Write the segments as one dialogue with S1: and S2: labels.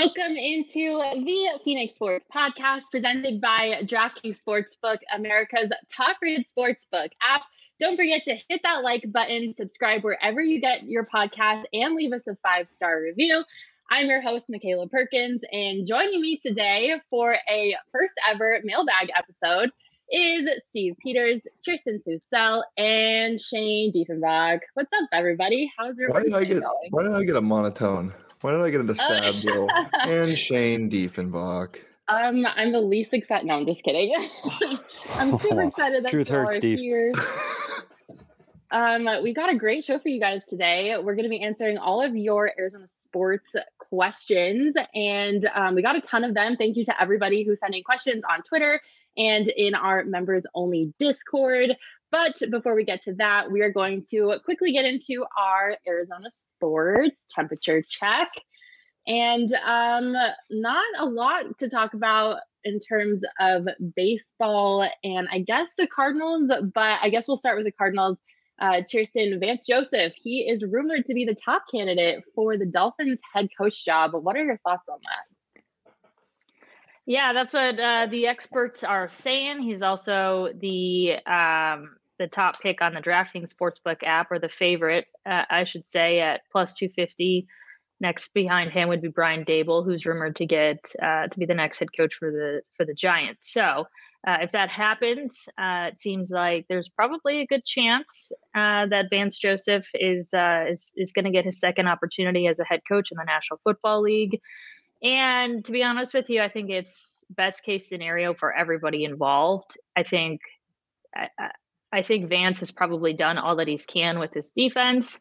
S1: Welcome into the Phoenix Sports Podcast presented by DraftKings Sportsbook, America's top-rated sportsbook app. Don't forget to hit that like button, subscribe wherever you get your podcast, and leave us a 5-star review. I'm your host, Michaela Perkins, and joining me today for a first-ever mailbag episode is Steve Peters, Kirsten Susel, and Shane Diefenbach. What's up, everybody? How's your Wednesday going?
S2: Why did I get a monotone? Why did I get into sad Bill and Shane Diefenbach?
S1: I'm the least excited. No, I'm just kidding. I'm super excited that
S3: Truth hurts, Steve.
S1: Here. We got a great show for you guys today. We're going to be answering all of your Arizona sports questions, and we got a ton of them. Thank you to everybody who sent in questions on Twitter and in our members-only Discord. But before we get to that, we are going to quickly get into our Arizona sports temperature check. And not a lot to talk about in terms of baseball and I guess the Cardinals, but I guess we'll start with the Cardinals. Kirsten, Vance Joseph, he is rumored to be the top candidate for the Dolphins head coach job. What are your thoughts on that?
S4: Yeah, that's what the experts are saying. He's also the top pick on the DraftKings Sportsbook app, or the favorite, I should say, at plus 250. Next behind him would be Brian Daboll, who's rumored to get to be the next head coach for the Giants. So if that happens, it seems like there's probably a good chance that Vance Joseph is going to get his second opportunity as a head coach in the National Football League. And to be honest with you, I think it's best case scenario for everybody involved. I think Vance has probably done all that he can with his defense.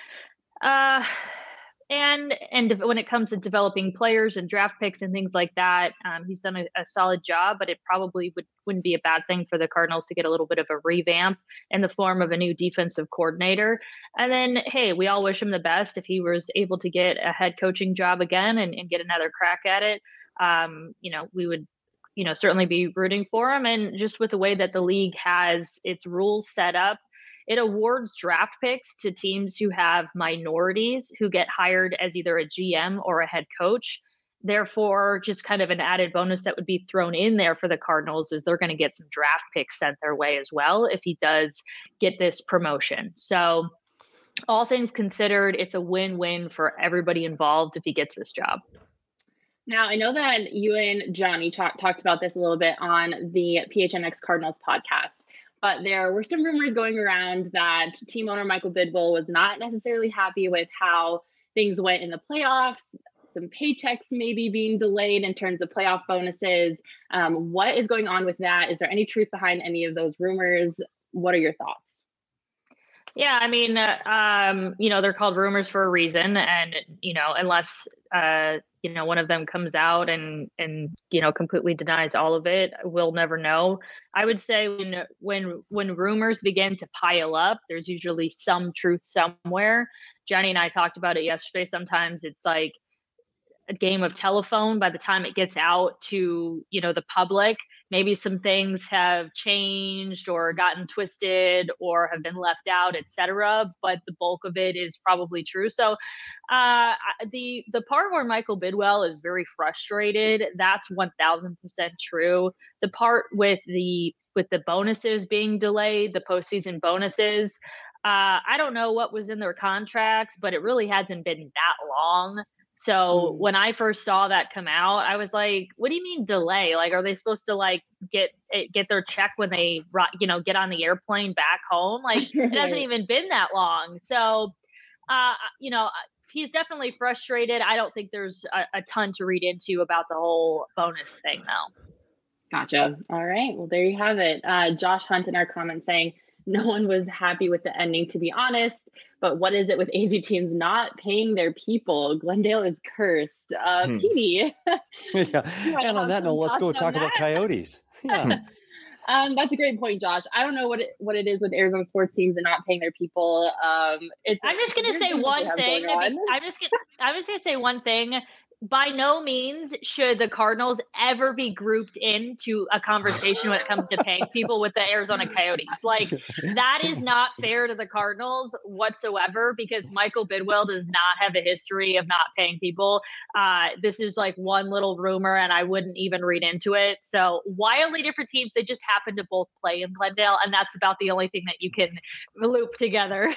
S4: And when it comes to developing players and draft picks and things like that, he's done a solid job, but it probably wouldn't be a bad thing for the Cardinals to get a little bit of a revamp in the form of a new defensive coordinator. And then, hey, we all wish him the best if he was able to get a head coaching job again and get another crack at it. We would, certainly be rooting for him. And just with the way that the league has its rules set up, it awards draft picks to teams who have minorities who get hired as either a GM or a head coach. Therefore, just kind of an added bonus that would be thrown in there for the Cardinals is they're going to get some draft picks sent their way as well if he does get this promotion. So all things considered, it's a win-win for everybody involved if he gets this job.
S1: Now, I know that you and Johnny talked about this a little bit on the PHNX Cardinals podcast. But there were some rumors going around that team owner Michael Bidwill was not necessarily happy with how things went in the playoffs, some paychecks maybe being delayed in terms of playoff bonuses. What is going on with that? Is there any truth behind any of those rumors? What are your thoughts?
S4: Yeah, I mean, they're called rumors for a reason. And, unless, one of them comes out and completely denies all of it, we'll never know. I would say when rumors begin to pile up, there's usually some truth somewhere. Jenny and I talked about it yesterday. Sometimes it's like a game of telephone. By the time it gets out to, the public, maybe some things have changed or gotten twisted or have been left out, etc. But the bulk of it is probably true. So the part where Michael Bidwill is very frustrated, that's 1000% true. The part with the bonuses being delayed, the postseason bonuses, I don't know what was in their contracts, but it really hasn't been that long. So when I first saw that come out, I was like, what do you mean delay? Like, are they supposed to get their check when they, get on the airplane back home? Like, it hasn't even been that long. So, he's definitely frustrated. I don't think there's a ton to read into about the whole bonus thing, though.
S1: Gotcha. All right. Well, there you have it. Josh Hunt in our comments saying, no one was happy with the ending, to be honest. But what is it with AZ teams not paying their people? Glendale is cursed. Petey.
S3: Yeah. And on that note, let's go talk about Coyotes. Yeah.
S1: That's a great point, Josh. I don't know what it is with Arizona sports teams and not paying their people.
S4: I'm just going to say one thing. I'm just going to say one thing. by no means should the Cardinals ever be grouped into a conversation when it comes to paying people with the Arizona Coyotes. Like, that is not fair to the Cardinals whatsoever, because Michael Bidwell does not have a history of not paying people. This is like one little rumor, and I wouldn't even read into it. So wildly different teams. They just happen to both play in Glendale, and that's about the only thing that you can loop together.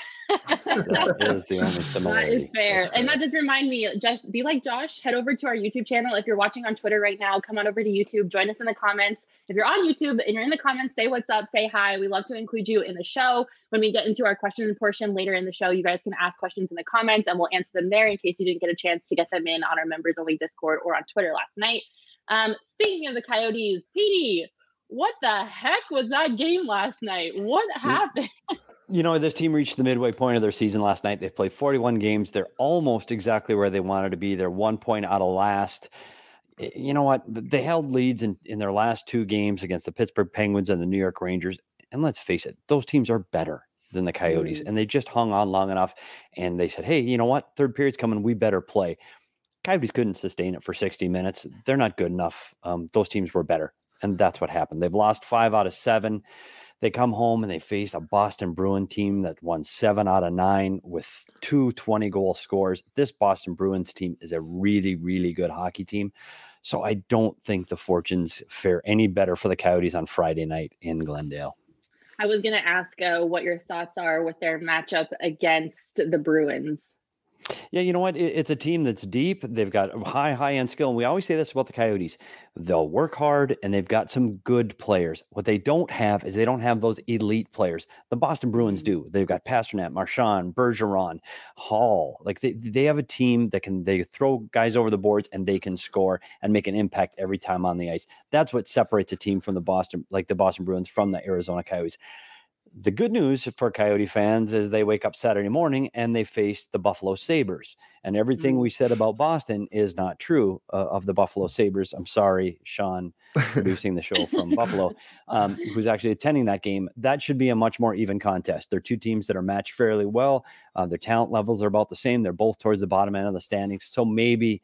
S3: That is the only similarity.
S1: That is fair. And that does remind me, just be like Josh, head over to our YouTube channel. If you're watching on Twitter right now, come on over to YouTube, join us in the comments. If you're on YouTube and you're in the comments, say what's up, say hi. We love to include you in the show. When we get into our question portion later in the show, you guys can ask questions in the comments and we'll answer them there in case you didn't get a chance to get them in on our members only Discord or on Twitter last night. Speaking of the Coyotes, Petey, what the heck was that game last night? What happened?
S3: You know, this team reached the midway point of their season last night. They've played 41 games. They're almost exactly where they wanted to be. They're 1 point out of last. You know what? They held leads in their last 2 games against the Pittsburgh Penguins and the New York Rangers. And let's face it, those teams are better than the Coyotes. And they just hung on long enough. And they said, hey, you know what? Third period's coming. We better play. Coyotes couldn't sustain it for 60 minutes. They're not good enough. Those teams were better. And that's what happened. They've lost 5 out of 7. They come home and they face a Boston Bruins team that won 7 out of 9 with 2 20-goal scores. This Boston Bruins team is a really, really good hockey team. So I don't think the fortunes fare any better for the Coyotes on Friday night in Glendale.
S1: I was going to ask what your thoughts are with their matchup against the Bruins.
S3: Yeah, you know what? It's a team that's deep. They've got high-end skill. And we always say this about the Coyotes. They'll work hard, and they've got some good players. What they don't have is they don't have those elite players. The Boston Bruins do. They've got Pastrnak, Marchand, Bergeron, Hall. Like they have a team that they throw guys over the boards, and they can score and make an impact every time on the ice. That's what separates a team from the Boston Bruins from the Arizona Coyotes. The good news for Coyote fans is they wake up Saturday morning and they face the Buffalo Sabres. And everything we said about Boston is not true of the Buffalo Sabres. I'm sorry, Sean, producing the show from Buffalo, who's actually attending that game. That should be a much more even contest. They're 2 teams that are matched fairly well. Their talent levels are about the same. They're both towards the bottom end of the standings. So maybe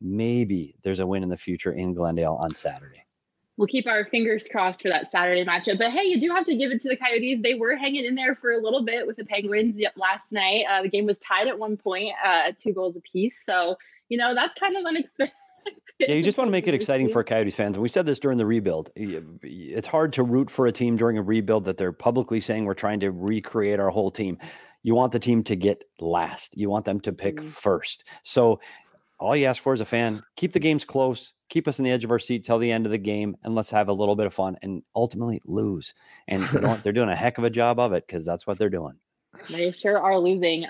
S3: there's a win in the future in Glendale on Saturday.
S1: We'll keep our fingers crossed for that Saturday matchup. But hey, you do have to give it to the Coyotes. They were hanging in there for a little bit with the Penguins last night. The game was tied at one point, 2 goals apiece. So, you know, that's kind of unexpected.
S3: Yeah, you just want to make it exciting for Coyotes fans. And we said this during the rebuild. It's hard to root for a team during a rebuild that they're publicly saying we're trying to recreate our whole team. You want the team to get last. You want them to pick first. So all you ask for as a fan, keep the games close. Keep us on the edge of our seat till the end of the game, and let's have a little bit of fun and ultimately lose. And you know what? They're doing a heck of a job of it because that's what they're doing.
S1: They sure are losing.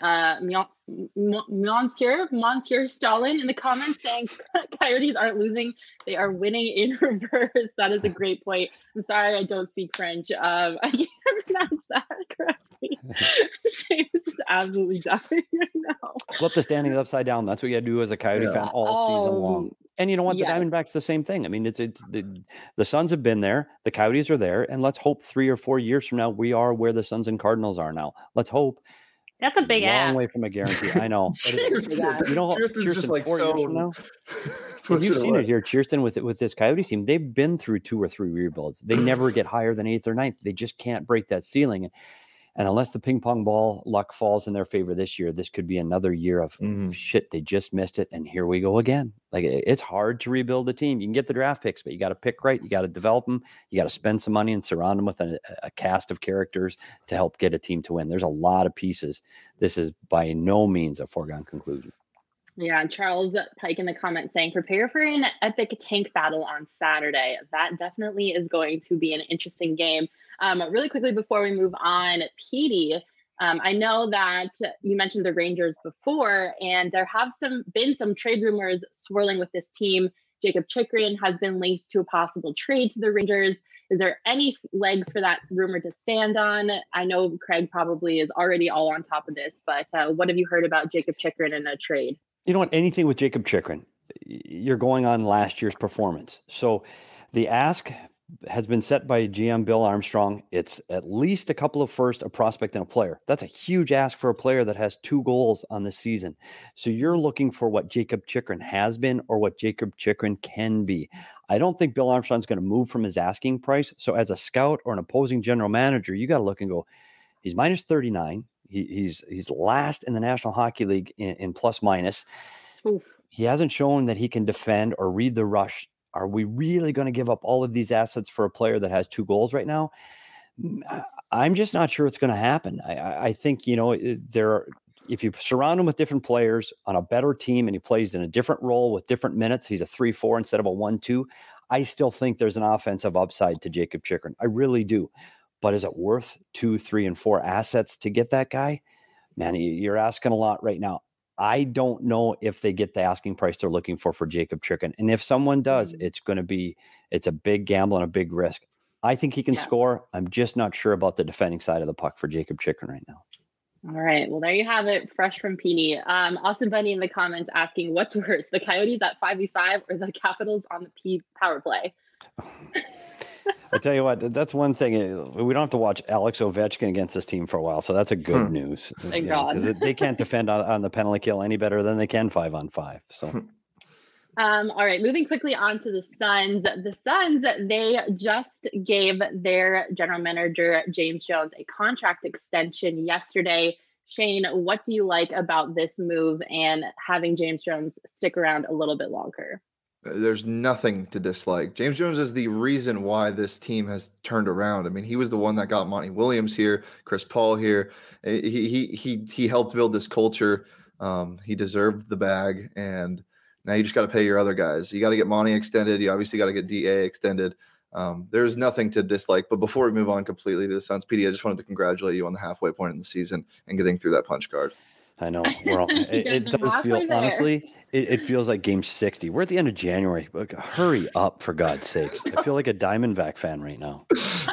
S1: Monsieur Stalin in the comments saying Coyotes aren't losing. They are winning in reverse. That is a great point. I'm sorry I don't speak French. I can't pronounce that correctly. Shane is just absolutely dying right now.
S3: Flip the standings upside down. That's what you got to do as a Coyote fan all season long. And you know what? The Diamondbacks the same thing. I mean, the Suns have been there. The Coyotes are there. And let's hope 3 or 4 years from now, we are where the Suns and Cardinals are now. Let's hope.
S4: That's a big
S3: long way from a guarantee. I know. You know, Cheerston's just like 4 years from now. And you've seen it here, Cheerston, with this Coyotes team. They've been through 2 or 3 rebuilds. They never get higher than 8th or 9th. They just can't break that ceiling. And unless the ping pong ball luck falls in their favor this year, this could be another year of shit. They just missed it. And here we go again. Like, it's hard to rebuild a team. You can get the draft picks, but you got to pick right. You got to develop them. You got to spend some money and surround them with a cast of characters to help get a team to win. There's a lot of pieces. This is by no means a foregone conclusion.
S1: Yeah, Charles Pike in the comments saying, prepare for an epic tank battle on Saturday. That definitely is going to be an interesting game. Really quickly before we move on, Petey, I know that you mentioned the Rangers before, and there have been some trade rumors swirling with this team. Jacob Chychrun has been linked to a possible trade to the Rangers. Is there any legs for that rumor to stand on? I know Craig probably is already all on top of this, but what have you heard about Jacob Chychrun in a trade?
S3: You know what? Anything with Jacob Chychrun, you're going on last year's performance. So the ask has been set by GM Bill Armstrong. It's at least a couple of first, a prospect, and a player. That's a huge ask for a player that has 2 goals on the season. So you're looking for what Jakob Chychrun has been or what Jakob Chychrun can be. I don't think Bill Armstrong's going to move from his asking price. So as a scout or an opposing general manager, you got to look and go, he's minus 39. He's last in the National Hockey League in plus minus.
S1: Oof.
S3: He hasn't shown that he can defend or read the rush. Are we really going to give up all of these assets for a player that has 2 goals right now? I'm just not sure it's going to happen. I think, if you surround him with different players on a better team and he plays in a different role with different minutes, he's a 3-4 instead of a 1-2. I still think there's an offensive upside to Jakob Chychrun. I really do. But is it worth 2, 3, and 4 assets to get that guy? Man, you're asking a lot right now. I don't know if they get the asking price they're looking for Jakob Chychrun. And if someone does, it's a big gamble and a big risk. I think he can score. I'm just not sure about the defending side of the puck for Jakob Chychrun right now.
S1: All right. Well, there you have it. Fresh from Petey. Austin Bunny in the comments asking, what's worse, the Coyotes at 5v5 or the Capitals on the power play?
S3: I tell you what, that's one thing. We don't have to watch Alex Ovechkin against this team for a while, so that's a good news.
S1: Thank God.
S3: They can't defend on the penalty kill any better than they can 5-on-5. So,
S1: all right, moving quickly on to the Suns. The Suns, they just gave their general manager, James Jones, a contract extension yesterday. Shane, what do you like about this move and having James Jones stick around a little bit longer?
S2: There's nothing to dislike. James Jones is the reason why this team has turned around. I mean, he was the one that got Monty Williams here, Chris Paul here. He helped build this culture. He deserved the bag, and now you just got to pay your other guys. You got to get Monty extended. You obviously got to get DA extended. There's nothing to dislike. But before we move on completely to the Suns, PD, I just wanted to congratulate you on the halfway point in the season and getting through that punch card.
S3: I know. It does feel, honestly, it feels like game 60. We're at the end of January. Hurry up, for God's sakes. I feel like a Diamondback fan right now.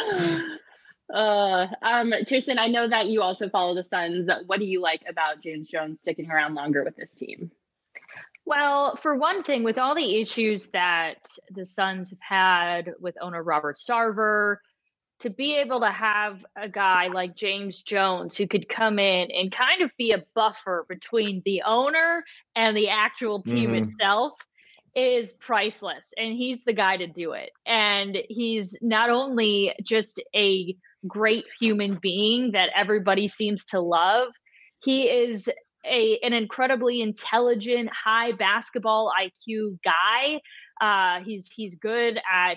S1: Tristan, I know that you also follow the Suns. What do you like about James Jones sticking around longer with this team?
S4: Well, for one thing, with all the issues that the Suns have had with owner Robert Sarver, to be able to have a guy like James Jones who could come in and kind of be a buffer between the owner and the actual team itself is priceless. And he's the guy to do it. And he's not only just a great human being that everybody seems to love, he is an incredibly intelligent, high basketball IQ guy. He's good at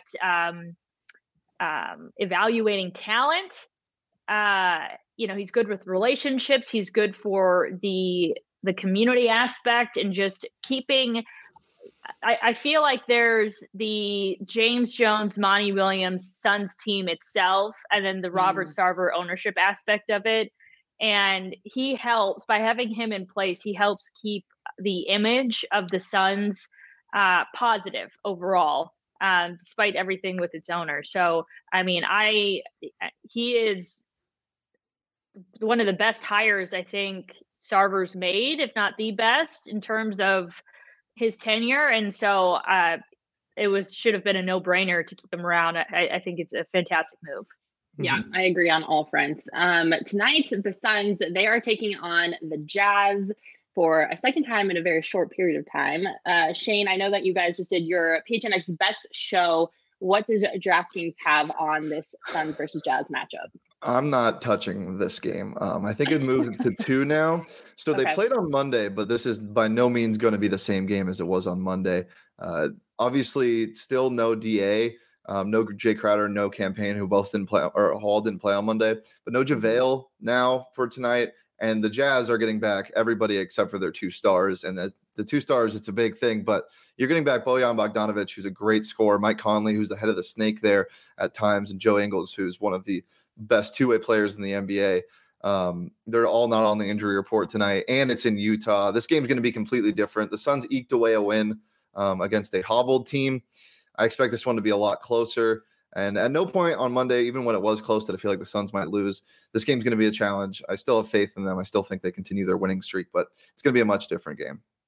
S4: evaluating talent. He's good with relationships. He's good for the community aspect and just keeping. I feel like there's the James Jones, Monty Williams Suns team itself, and then the Robert Sarver ownership aspect of it. And he helps, by having him in place, he helps keep the image of the Suns positive overall. Despite everything with its owner. So, I mean, he is one of the best hires I think Sarver's made, if not the best, in terms of his tenure. And so should have been a no-brainer to keep him around. I think it's a fantastic move.
S1: Yeah, I agree on all fronts. Tonight, the Suns, they are taking on the Jazz for a second time in a very short period of time. Shane, I know that you guys just did your PHNX Bets show. What does DraftKings have on this Suns versus Jazz matchup?
S2: I'm not touching this game. I think it moved to 2 now. So they played on Monday, but this is by no means going to be the same game as it was on Monday. Obviously, still no DA, no Jay Crowder, no Campaign, who both didn't play, or Hall didn't play on Monday, but no JaVale now for tonight. And the Jazz are getting back everybody except for their 2 stars. And the 2 stars, it's a big thing. But you're getting back Bojan Bogdanovic, who's a great scorer, Mike Conley, who's the head of the snake there at times, and Joe Ingles, who's one of the best 2-way players in the NBA. They're all not on the injury report tonight, and it's in Utah. This game's going to be completely different. The Suns eked away a win against a hobbled team. I expect this one to be a lot closer. And at no point on Monday, even when it was close, did I feel like the Suns might lose. This game's going to be a challenge. I still have faith in them. I still think they continue their winning streak, but it's going to be a much different game.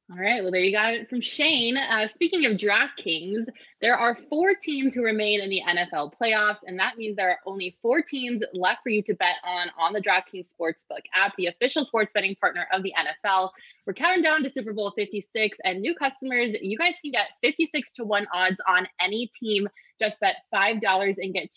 S1: All right. Well, there you got it from Shane. Speaking of DraftKings, there are 4 teams who remain in the NFL playoffs, and that means there are only 4 teams left for you to bet on the DraftKings Sportsbook app, the official sports betting partner of the NFL. We're counting down to Super Bowl 56, and new customers, you guys can get 56-1 odds on any team. Just bet $5 and get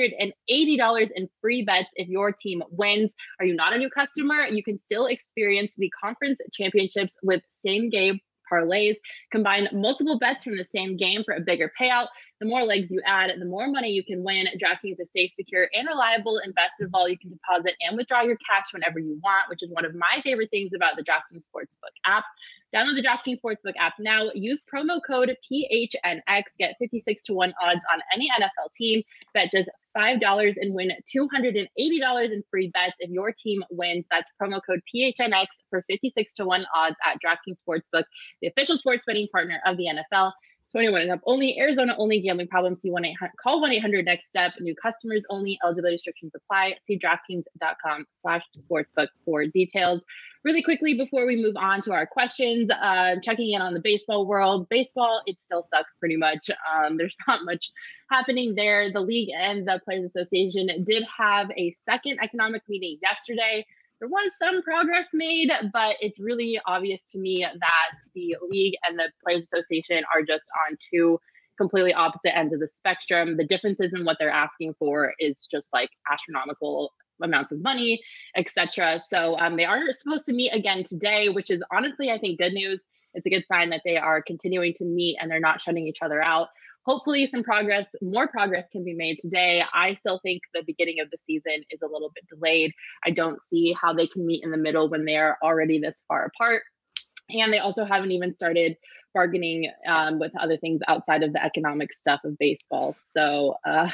S1: $280 in free bets if your team wins. Are you not a new customer? You can still experience the conference championships with same game parlays. Combine multiple bets from the same game for a bigger payout. The more legs you add, the more money you can win. DraftKings is safe, secure, and reliable. And best of all, you can deposit and withdraw your cash whenever you want, which is one of my favorite things about the DraftKings Sportsbook app. Download the DraftKings Sportsbook app now. Use promo code PHNX. Get 56-1 odds on any NFL team. Bet just $5 and win $280 in free bets if your team wins. That's promo code PHNX for 56-1 odds at DraftKings Sportsbook, the official sports betting partner of the NFL. 21 and up only. Arizona only. Gambling problems? See 1-800. Call 1-800-NEXT-STEP. New customers only. Eligibility restrictions apply. See DraftKings.com/sportsbook for details. Really quickly before we move on to our questions, checking in on the baseball world. Baseball, it still sucks pretty much. There's not much happening there. The league and the Players Association did have a second economic meeting yesterday. There was some progress made, but it's really obvious to me that the league and the Players Association are just on 2 completely opposite ends of the spectrum. The differences in what they're asking for is just like astronomical amounts of money, etc. So they are supposed to meet again today, which is honestly, I think, good news. It's a good sign that they are continuing to meet and they're not shutting each other out. Hopefully more progress can be made today. I still think the beginning of the season is a little bit delayed. I don't see how they can meet in the middle when they are already this far apart. And they also haven't even started bargaining with other things outside of the economic stuff of baseball. So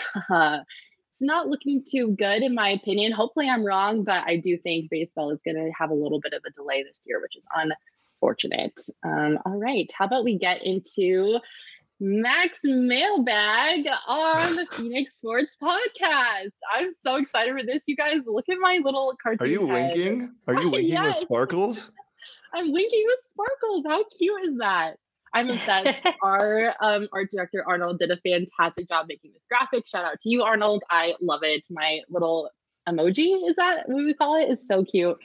S1: it's not looking too good in my opinion. Hopefully I'm wrong, but I do think baseball is going to have a little bit of a delay this year, which is unfortunate. All right. How about we get into Max mailbag on the Phoenix Sports Podcast. I'm so excited for this. You guys, look at my little cartoon.
S2: Are you
S1: head.
S2: winking? Are you winking
S1: Yes.
S2: with sparkles?
S1: I'm winking with sparkles. How cute is that? I'm obsessed. Our art director, Arnold, did a fantastic job making this graphic. Shout out to you, Arnold. I love it. My little emoji, is that what we call it? Is so cute.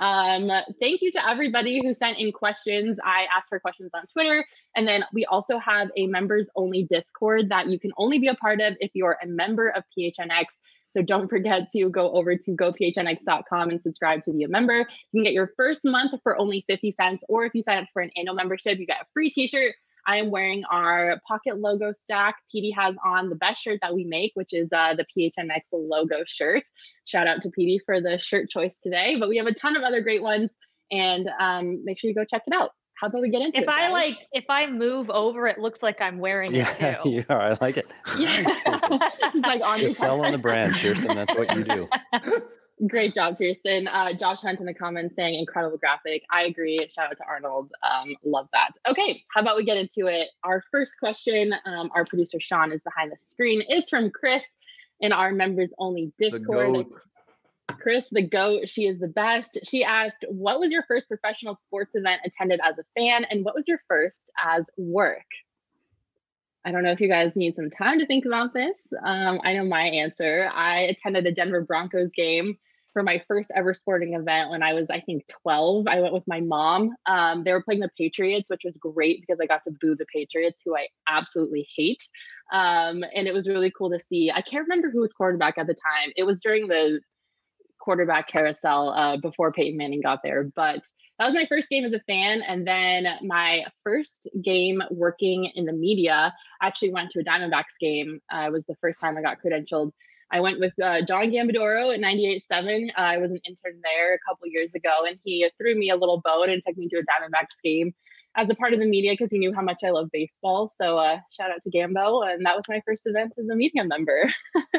S1: Thank you to everybody who sent in questions. I asked for questions on Twitter. And then we also have a members only Discord that you can only be a part of if you're a member of PHNX. So don't forget to go over to gophnx.com and subscribe to be a member. You can get your first month for only 50 cents, or if you sign up for an annual membership, you get a free t-shirt. I am wearing our pocket logo stack. PD has on the best shirt that we make, which is the PHNX logo shirt. Shout out to PD for the shirt choice today. But we have a ton of other great ones, and make sure you go check it out. How about we get into it?
S4: If I move over, it looks like I'm wearing it too.
S3: Yeah, I like it.
S1: Yeah. Just like on
S3: Just selling the brand, Kirsten. That's what you do.
S1: Great job, Kirsten. Josh Hunt in the comments saying incredible graphic. I agree. Shout out to Arnold. Love that. Okay, how about we get into it? Our first question, our producer Sean is behind the screen, is from Chris in our members only Discord. Chris, the GOAT, she is the best. She asked, what was your first professional sports event attended as a fan, and what was your first as work? I don't know if you guys need some time to think about this. I know my answer. I attended a Denver Broncos game for my first ever sporting event when I was, I think, 12. I went with my mom. They were playing the Patriots, which was great because I got to boo the Patriots, who I absolutely hate. And it was really cool to see. I can't remember who was quarterback at the time. It was during the quarterback carousel before Peyton Manning got there. But that was my first game as a fan. And then my first game working in the media, I actually went to a Diamondbacks game. It was the first time I got credentialed. I went with John Gambadoro at 98.7. I was an intern there a couple years ago, and he threw me a little bone and took me to a Diamondbacks game as a part of the media because he knew how much I love baseball. So shout out to Gambo. And that was my first event as a media member.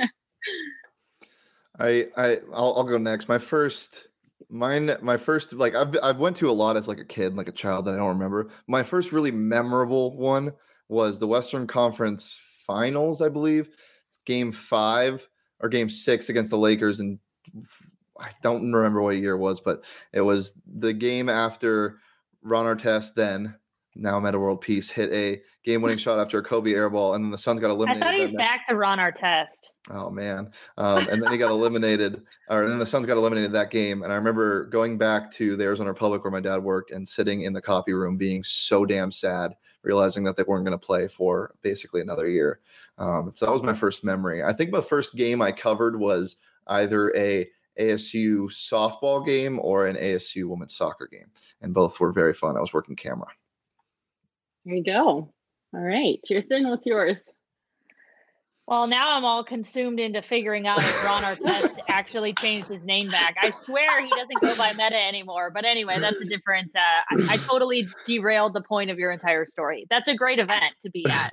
S2: I'll go next. My first, like I've went to a lot as like a kid, like a child that I don't remember. My first really memorable one was the Western Conference Finals, I believe, Game 5 or Game 6 against the Lakers, and I don't remember what year it was, but it was the game after Ron Artest, then now Metta World Peace, hit a game-winning shot after a Kobe air ball, and then the Suns got eliminated.
S4: I thought he's back to Ron Artest.
S2: Oh man! And then he got eliminated, or then the Suns got eliminated that game. And I remember going back to the Arizona Republic where my dad worked and sitting in the copy room, being so damn sad, realizing that they weren't going to play for basically another year. So that was my first memory. I think the first game I covered was either a ASU softball game or an ASU women's soccer game, and both were very fun. I was working camera.
S1: There you go. All right, Kirsten, what's yours?
S4: Well, now I'm all consumed into figuring out if Ron Artest actually changed his name back. I swear he doesn't go by Metta anymore. But anyway, that's a different. I totally derailed the point of your entire story. That's a great event to be at.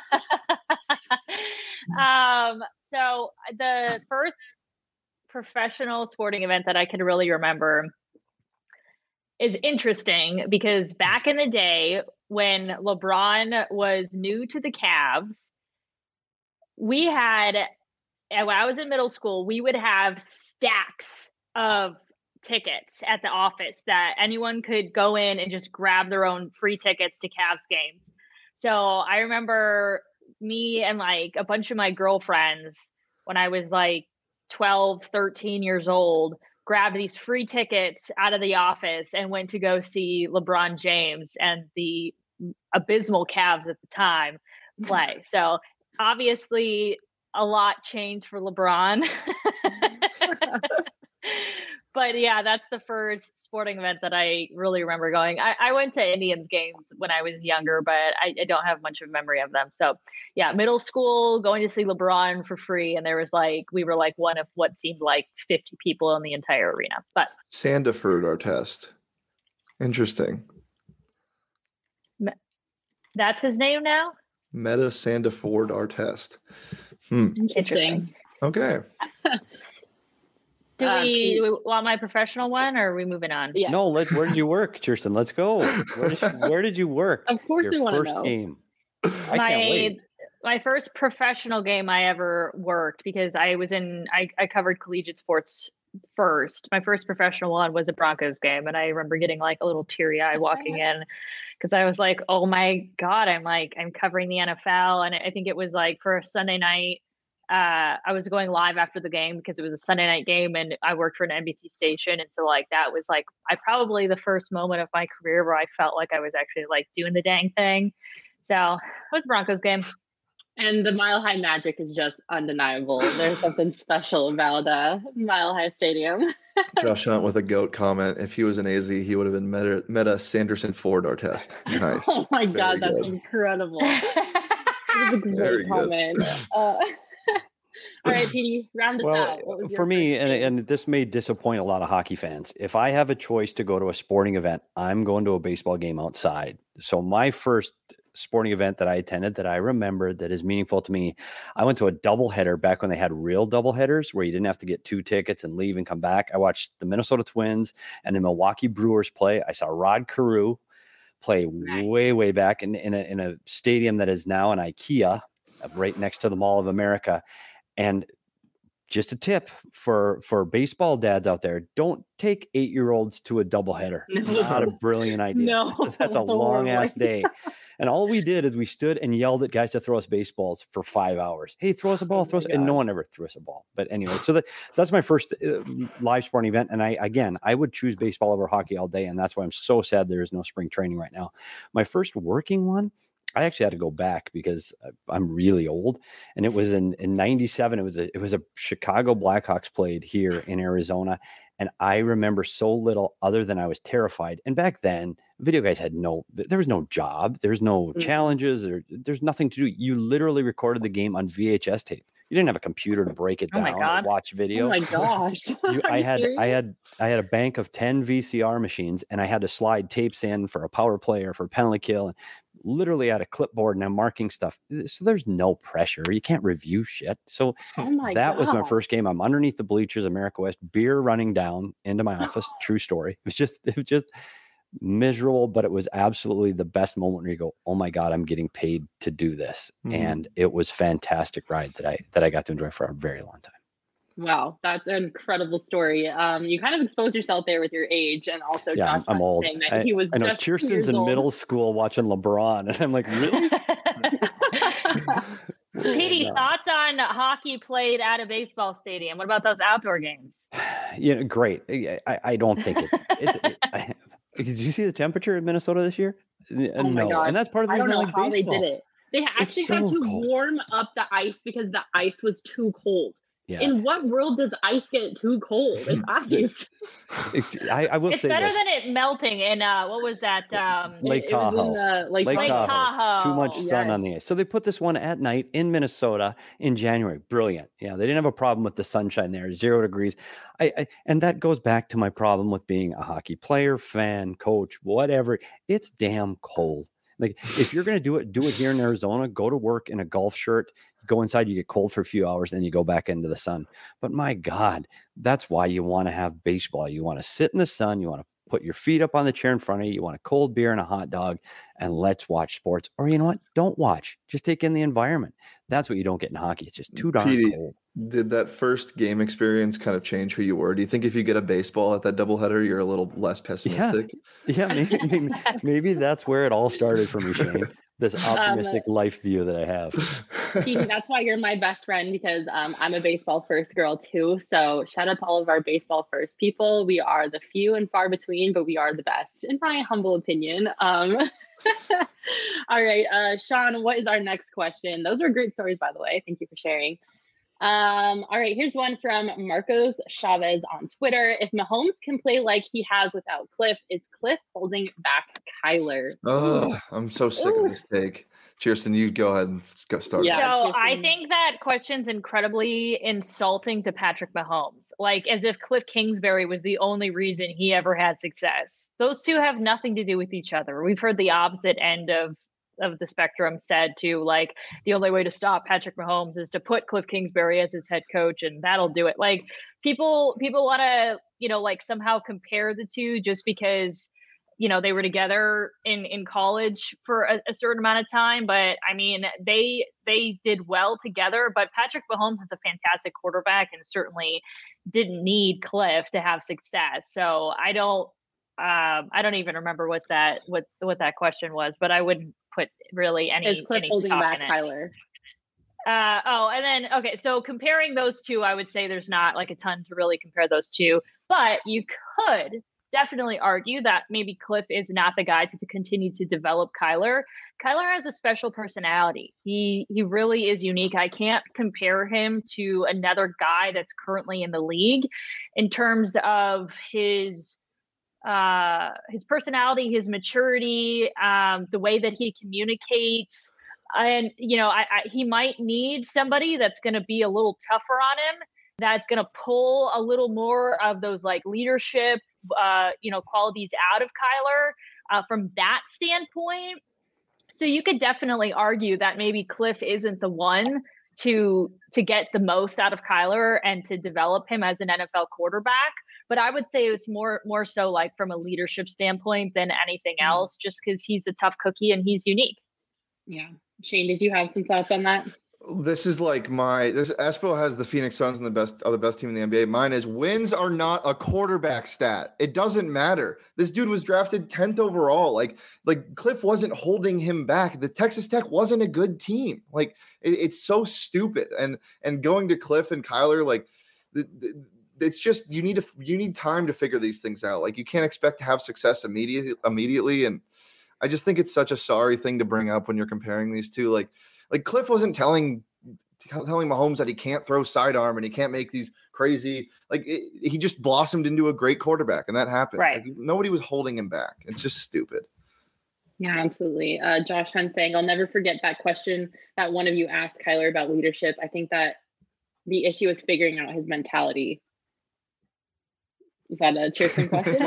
S4: So the first professional sporting event that I can really remember is interesting because back in the day when LeBron was new to the Cavs, we had, when I was in middle school, we would have stacks of tickets at the office that anyone could go in and just grab their own free tickets to Cavs games. So I remember me and like a bunch of my girlfriends when I was like 12, 13 years old, grabbed these free tickets out of the office and went to go see LeBron James and the abysmal Cavs at the time play. So obviously a lot changed for LeBron. But yeah, that's the first sporting event that I really remember going. I went to Indians games when I was younger, but I don't have much of a memory of them. So yeah, middle school, going to see LeBron for free. And there was like, we were like one of what seemed like 50 people in the entire arena. But
S2: Sandiford Artest. Interesting.
S4: That's his name now?
S2: Metta Sandiford Artest.
S1: Interesting.
S2: Okay.
S4: Do we want my professional one, or are we moving on?
S1: Yeah.
S3: No, where did you work, Kirsten? Let's go. Where did you work?
S1: Of course we want to know.
S3: First game. I can't wait.
S4: My first professional game I ever worked, because I covered collegiate sports first. My first professional one was a Broncos game, and I remember getting like a little teary eye walking in because I was like, oh my God, I'm covering the NFL. And I think it was like for a Sunday night. I was going live after the game because it was a Sunday night game and I worked for an NBC station. And so like, that was like, probably the first moment of my career where I felt like I was actually like doing the dang thing. So it was a Broncos game.
S1: And the Mile High magic is just undeniable. There's something special about Mile High Stadium.
S2: Josh Hunt with a GOAT comment. If he was an AZ, he would have been Metta Sanderson Ford Artest. Nice.
S1: Oh my God, that's incredible. That was a great comment. All right, Petey, round us out.
S3: For me, and this may disappoint a lot of hockey fans, if I have a choice to go to a sporting event, I'm going to a baseball game outside. So my first sporting event that I attended that I remember that is meaningful to me, I went to a doubleheader back when they had real doubleheaders where you didn't have to get 2 tickets and leave and come back. I watched the Minnesota Twins and the Milwaukee Brewers play. I saw Rod Carew play way back in a stadium that is now an IKEA right next to the Mall of America. And just a tip for baseball dads out there, don't take 8-year-olds to a doubleheader.
S1: No.
S3: Not a brilliant idea.
S1: No.
S3: That's a long ass day. And all we did is we stood and yelled at guys to throw us baseballs for 5 hours. Hey, throw us a ball, and no one ever threw us a ball. But anyway, so that's my first live sporting event. And I would choose baseball over hockey all day. And that's why I'm so sad there is no spring training right now. My first working one, I actually had to go back because I'm really old, and it was in 97. It was a Chicago Blackhawks played here in Arizona, and I remember so little other than I was terrified. And back then, video guys there was no job, there's no challenges, there's nothing to do. You literally recorded the game on VHS tape. You didn't have a computer to break it down or watch video.
S1: Oh my gosh!
S3: I had a bank of 10 VCR machines, and I had to slide tapes in for a power play or for penalty kill, and literally had a clipboard and I'm marking stuff. So there's no pressure. You can't review shit. So that was my first game. I'm underneath the bleachers, America West, beer running down into my office. True story. It was just miserable, but it was absolutely the best moment where you go, oh my God, I'm getting paid to do this. And it was fantastic ride that I got to enjoy for a very long time.
S1: Wow, that's an incredible story. You kind of exposed yourself there with your age, and also
S3: Yeah,
S1: Josh
S3: I'm old.
S1: saying that he was
S3: I know
S1: just 2
S3: Kirsten's
S1: years
S3: in
S1: old.
S3: middle school watching LeBron, and I'm like, really?
S4: Petey, thoughts on hockey played at a baseball stadium? What about those outdoor games?
S3: Yeah, great. I don't think did you see the temperature in Minnesota this year?
S1: Oh my gosh.
S3: And that's part of the
S1: I
S3: reason
S1: don't know
S3: like
S1: how
S3: baseball.
S1: they did it. They actually had to warm up the ice because the ice was too cold.
S3: Yeah.
S1: In what world does ice get too cold? It's ice.
S3: I will
S4: it's
S3: say
S4: better
S3: this.
S4: than it melting in what was that?
S3: Lake Tahoe.
S1: Lake
S4: Tahoe.
S3: Too much sun on the ice. So they put this one at night in Minnesota in January. Brilliant. Yeah, they didn't have a problem with the sunshine there. 0 degrees. And that goes back to my problem with being a hockey player, fan, coach, whatever. It's damn cold. Like if you're going to do it here in Arizona. Go to work in a golf shirt. Go inside, you get cold for a few hours, then you go back into the sun. But my God, that's why you want to have baseball. You want to sit in the sun. You want to put your feet up on the chair in front of you. You want a cold beer and a hot dog, and let's watch sports. Or you know what? Don't watch. Just take in the environment. That's what you don't get in hockey. It's just too darn cold.
S2: Did that first game experience kind of change who you were? Do you think if you get a baseball at that doubleheader, you're a little less pessimistic?
S3: Yeah, maybe that's where it all started for me, Shane. This optimistic life view that I have.
S1: That's why you're my best friend, because I'm a baseball first girl too. So shout out to all of our baseball first people. We are the few and far between, but we are the best, in my humble opinion. All right, Sean, what is our next question? Those are great stories, by the way. Thank you for sharing. All right, here's one from Marcos Chavez on Twitter. If Mahomes can play like he has without Cliff, is Cliff holding back Kyler?
S2: Oh, I'm so sick of this take. Kirsten, you go ahead and start.
S4: Yeah, so I think that question's incredibly insulting to Patrick Mahomes. Like as if Cliff Kingsbury was the only reason he ever had success. Those two have nothing to do with each other. We've heard the opposite end of the spectrum said to, like, the only way to stop Patrick Mahomes is to put Cliff Kingsbury as his head coach, and that'll do it. Like people want to, like somehow compare the two just because, they were together in college for a certain amount of time. But I mean, they did well together, but Patrick Mahomes is a fantastic quarterback and certainly didn't need Cliff to have success. So I don't even remember what that question was, but I wouldn't put really any.
S1: Is Cliff holding back Kyler?
S4: And then okay, so comparing those two, I would say there's not like a ton to really compare those two, but you could definitely argue that maybe Cliff is not the guy to continue to develop Kyler. Kyler has a special personality. He really is unique. I can't compare him to another guy that's currently in the league in terms of his personality, his maturity, the way that he communicates. And, he might need somebody that's going to be a little tougher on him, that's going to pull a little more of those like leadership, qualities out of Kyler from that standpoint. So you could definitely argue that maybe Cliff isn't the one to get the most out of Kyler and to develop him as an NFL quarterback. But I would say it's more so like from a leadership standpoint than anything else, just because he's a tough cookie and he's unique.
S1: Yeah. Shane, did you have some thoughts on that?
S2: This is like Espo has the Phoenix Suns and the best team in the NBA. Mine is wins are not a quarterback stat. It doesn't matter. This dude was drafted 10th overall. Like Cliff wasn't holding him back. The Texas Tech wasn't a good team. Like it's so stupid. And going to Cliff and Kyler, like it's just you need time to figure these things out. Like you can't expect to have success immediately. And I just think it's such a sorry thing to bring up when you're comparing these two. Like Cliff wasn't telling Mahomes that he can't throw sidearm and he can't make these crazy, he just blossomed into a great quarterback, and that happens.
S4: Right.
S2: Nobody was holding him back. It's just stupid.
S1: Yeah, absolutely. Josh Hunt saying, I'll never forget that question that one of you asked Kyler about leadership. I think that the issue is figuring out his mentality. Was that a Kirsten question?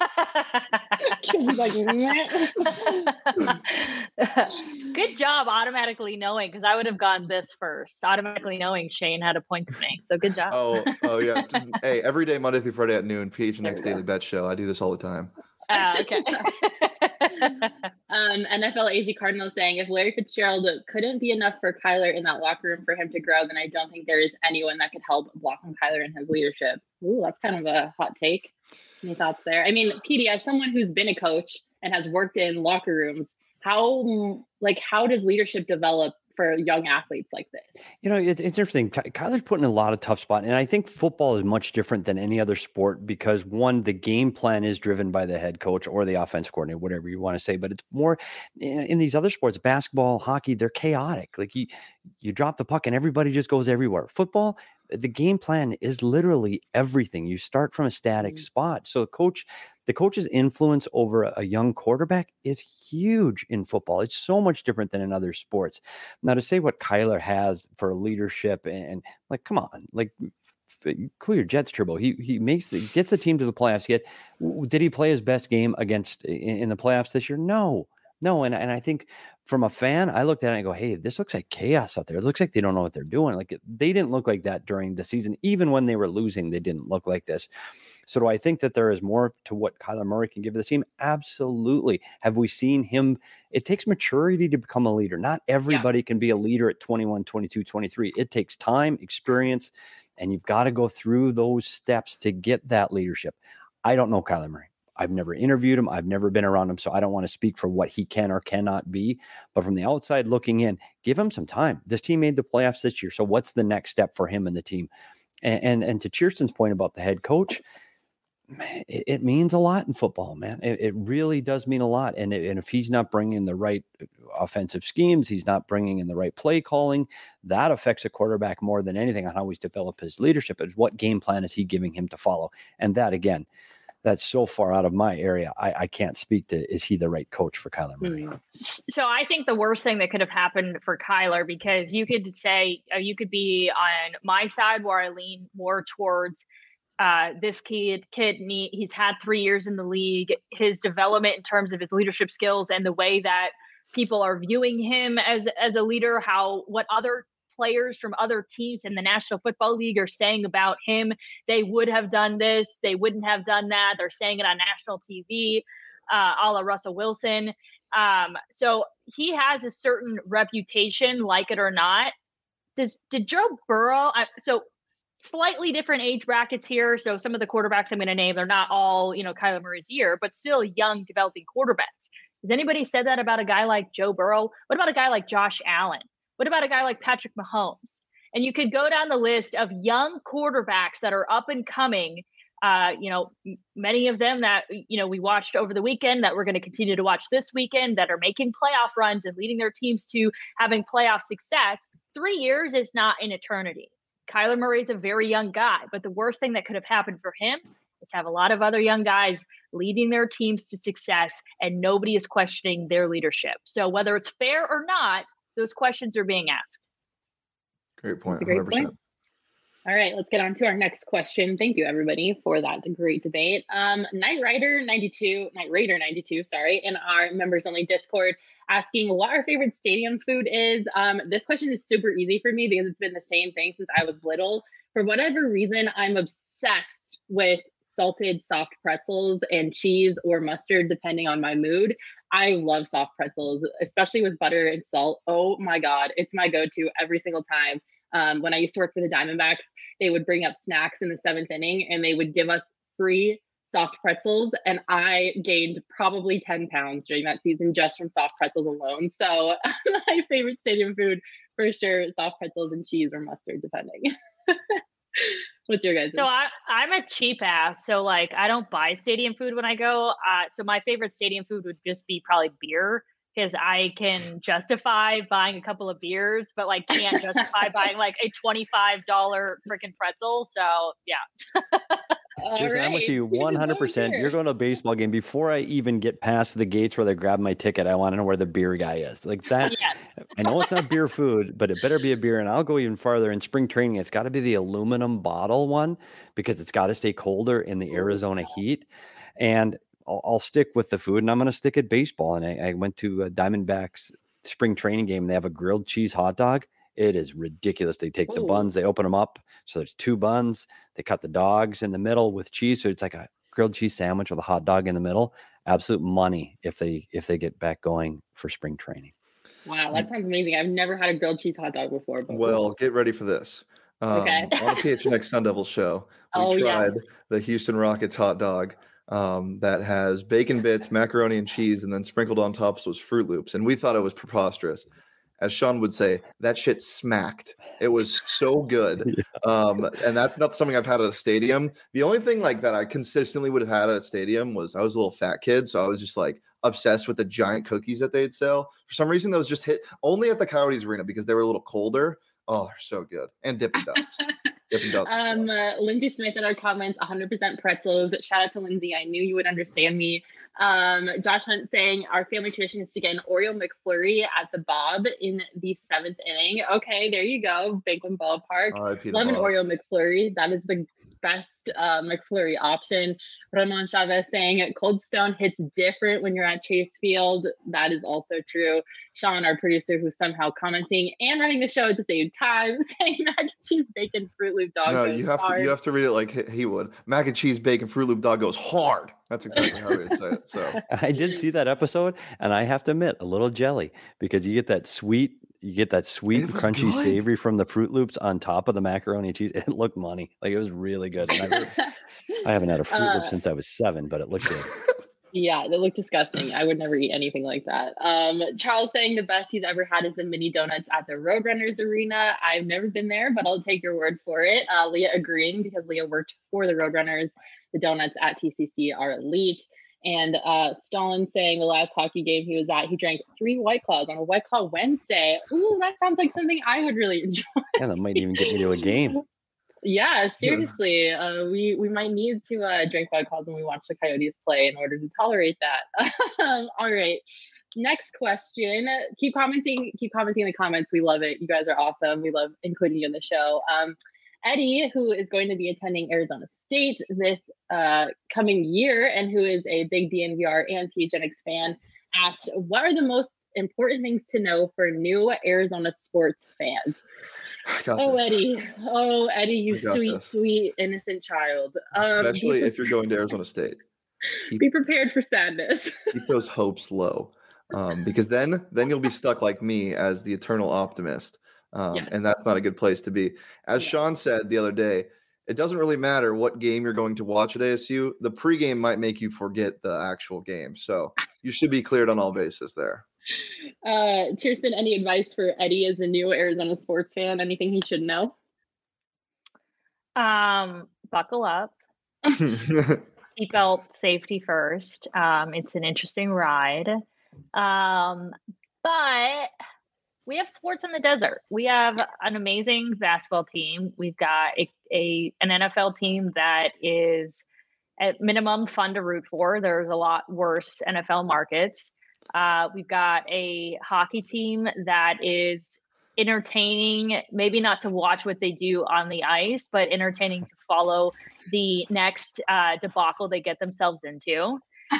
S4: Good job automatically knowing, because I would have gone this first. Automatically knowing Shane had a point to make. So good job.
S2: Oh yeah. Hey, every day, Monday through Friday at noon, PHNX Daily Bet Show. I do this all the time.
S4: Okay.
S1: NFL AZ Cardinal saying, if Larry Fitzgerald couldn't be enough for Kyler in that locker room for him to grow, then I don't think there is anyone that could help blossom Kyler in his leadership. Ooh, that's kind of a hot take. Any thoughts there? I mean, PD, as someone who's been a coach and has worked in locker rooms, how does leadership develop for young athletes like this?
S3: It's interesting. Kyler's put in a lot of tough spot. And I think football is much different than any other sport because one, the game plan is driven by the head coach or the offense coordinator, whatever you want to say. But it's more in these other sports, basketball, hockey, they're chaotic. Like you drop the puck and everybody just goes everywhere. Football, the game plan is literally everything. You start from a static spot. So the coach's influence over a young quarterback is huge in football. It's so much different than in other sports. Now, to say what Kyler has for leadership and like, come on, like cool your jets, Turbo. He gets the team to the playoffs. Yet, did he play his best game in the playoffs this year? No. And I think from a fan, I looked at it and I go, hey, this looks like chaos out there. It looks like they don't know what they're doing. Like they didn't look like that during the season. Even when they were losing, they didn't look like this. So do I think that there is more to what Kyler Murray can give the team? Absolutely. Have we seen him? It takes maturity to become a leader. Not everybody can be a leader at 21, 22, 23. It takes time, experience, and you've got to go through those steps to get that leadership. I don't know Kyler Murray. I've never interviewed him. I've never been around him. So I don't want to speak for what he can or cannot be. But from the outside looking in, give him some time. This team made the playoffs this year. So what's the next step for him and the team? And to Cheerston's point about the head coach, man, it means a lot in football, man. It really does mean a lot. And if he's not bringing the right offensive schemes, he's not bringing in the right play calling, that affects a quarterback more than anything on how he's developed his leadership. Is what game plan is he giving him to follow? And that, again, that's so far out of my area. I can't speak to, is he the right coach for Kyler Murray?
S4: So I think the worst thing that could have happened for Kyler, because you could say, you could be on my side where I lean more towards this kid, he's had 3 years in the league, his development in terms of his leadership skills and the way that people are viewing him as a leader, what other players from other teams in the National Football League are saying about him. They would have done this. They wouldn't have done that. They're saying it on national TV, a la Russell Wilson. So he has a certain reputation, like it or not. Did Joe Burrow? So slightly different age brackets here. So some of the quarterbacks I'm going to name, they're not all, Kyler Murray's year, but still young developing quarterbacks. Has anybody said that about a guy like Joe Burrow? What about a guy like Josh Allen? What about a guy like Patrick Mahomes? And you could go down the list of young quarterbacks that are up and coming. Many of them that, we watched over the weekend, that we're going to continue to watch this weekend, that are making playoff runs and leading their teams to having playoff success. 3 years is not an eternity. Kyler Murray is a very young guy, but the worst thing that could have happened for him is have a lot of other young guys leading their teams to success, and nobody is questioning their leadership. So whether it's fair or not, those questions are being asked.
S2: Great point. 100%.
S1: Great point. All right, let's get on to our next question. Thank you, everybody, for that great debate. Night Raider 92, in our members only Discord, asking what our favorite stadium food is. This question is super easy for me because it's been the same thing since I was little. For whatever reason, I'm obsessed with salted soft pretzels and cheese or mustard, depending on my mood. I love soft pretzels, especially with butter and salt. Oh my God, it's my go-to every single time. When I used to work for the Diamondbacks, they would bring up snacks in the 7th inning and they would give us free soft pretzels. And I gained probably 10 pounds during that season just from soft pretzels alone. So my favorite stadium food, for sure, soft pretzels and cheese or mustard, depending. What's your guys'?
S4: So I'm a cheap ass. So I don't buy stadium food when I go. So my favorite stadium food would just be probably beer, because I can justify buying a couple of beers, but can't justify buying a $25 freaking pretzel. So yeah.
S3: Jason, I'm with you 100%. You're going to a baseball game. Before I even get past the gates where they grab my ticket, I want to know where the beer guy is. Like that. Yeah. I know it's not beer food, but it better be a beer. And I'll go even farther. In spring training, it's got to be the aluminum bottle one, because it's got to stay colder in the Arizona heat. And I'll stick with the food, and I'm going to stick at baseball. And I went to a Diamondbacks spring training game, and they have a grilled cheese hot dog. It is ridiculous. They take the buns, they open them up. So there's 2 buns. They cut the dogs in the middle with cheese. So it's like a grilled cheese sandwich with a hot dog in the middle. absolute money if they get back going for spring training.
S1: Wow, that sounds amazing. I've never had a grilled cheese hot dog before. But
S2: well, get ready for this.
S1: Okay.
S2: On the PHNX Sun Devil show, we tried the Houston Rockets hot dog that has bacon bits, macaroni and cheese, and then sprinkled on top was Fruit Loops. And we thought it was preposterous. As Sean would say, that shit smacked. It was so good. And that's not something I've had at a stadium. The only thing like that I consistently would have had at a stadium was I was a little fat kid. So I was just like obsessed with the giant cookies that they'd sell. For some reason, those just hit only at the Coyotes Arena because they were a little colder. Oh, they're so good. And Dippin' Dots. Dippin' Dots.
S1: Lindsay Smith in our comments, 100% pretzels. Shout out to Lindsay. I knew you would understand me. Josh Hunt saying our family tradition is to get an Oreo McFlurry at the Bob in the 7th inning. Okay, there you go. Banquet Ballpark. Love an Oreo McFlurry. That is the best McFlurry option. Ramon Chavez saying Cold Stone hits different when you're at Chase Field. That is also true. Sean, our producer, who's somehow commenting and running the show at the same time, saying mac and cheese, bacon, Fruit Loop dog.
S2: No,
S1: goes
S2: you have
S1: hard.
S2: to to read it like he would. Mac and cheese, bacon, Fruit Loop dog goes hard. That's exactly how he would say it. So
S3: I did see that episode, and I have to admit, a little jelly because you get that sweet, crunchy, savory from the Fruit Loops on top of the macaroni and cheese. It looked money. Like it was really good. And I haven't had a Fruit Loop since I was 7, but it looked good.
S1: Yeah, they look disgusting. I would never eat anything like that. Charles saying the best he's ever had is the mini donuts at the Roadrunners Arena. I've never been there, but I'll take your word for it. Leah agreeing because Leah worked for the Roadrunners. The donuts at TCC are elite. And Stalin saying the last hockey game he was at, he drank 3 White Claws on a White Claw Wednesday. Ooh, that sounds like something I would really enjoy.
S3: Yeah, that might even get me to a game.
S1: Yeah, seriously. We might need to drink White Claws when we watch the Coyotes play in order to tolerate that. All right. Next question. Keep commenting in the comments. We love it. You guys are awesome. We love including you in the show. Eddie, who is going to be attending Arizona State this coming year and who is a big DNVR and PHNX fan, asked, what are the most important things to know for new Arizona sports fans? Eddie, you sweet, innocent child.
S2: Especially if you're going to Arizona State.
S1: Be prepared for sadness.
S2: Keep those hopes low, because then you'll be stuck like me as the eternal optimist, yes. And that's not a good place to be. As Sean said the other day, it doesn't really matter what game you're going to watch at ASU. The pregame might make you forget the actual game, so you should be cleared on all bases there.
S1: Kirsten, any advice for Eddie as a new Arizona sports fan? Anything he should know?
S4: Buckle up. Seatbelt safety first. It's an interesting ride. But we have sports in the desert. We have an amazing basketball team. We've got an NFL team that is at minimum fun to root for. There's a lot worse NFL markets. We've got a hockey team that is entertaining, maybe not to watch what they do on the ice, but entertaining to follow the next debacle they get themselves into.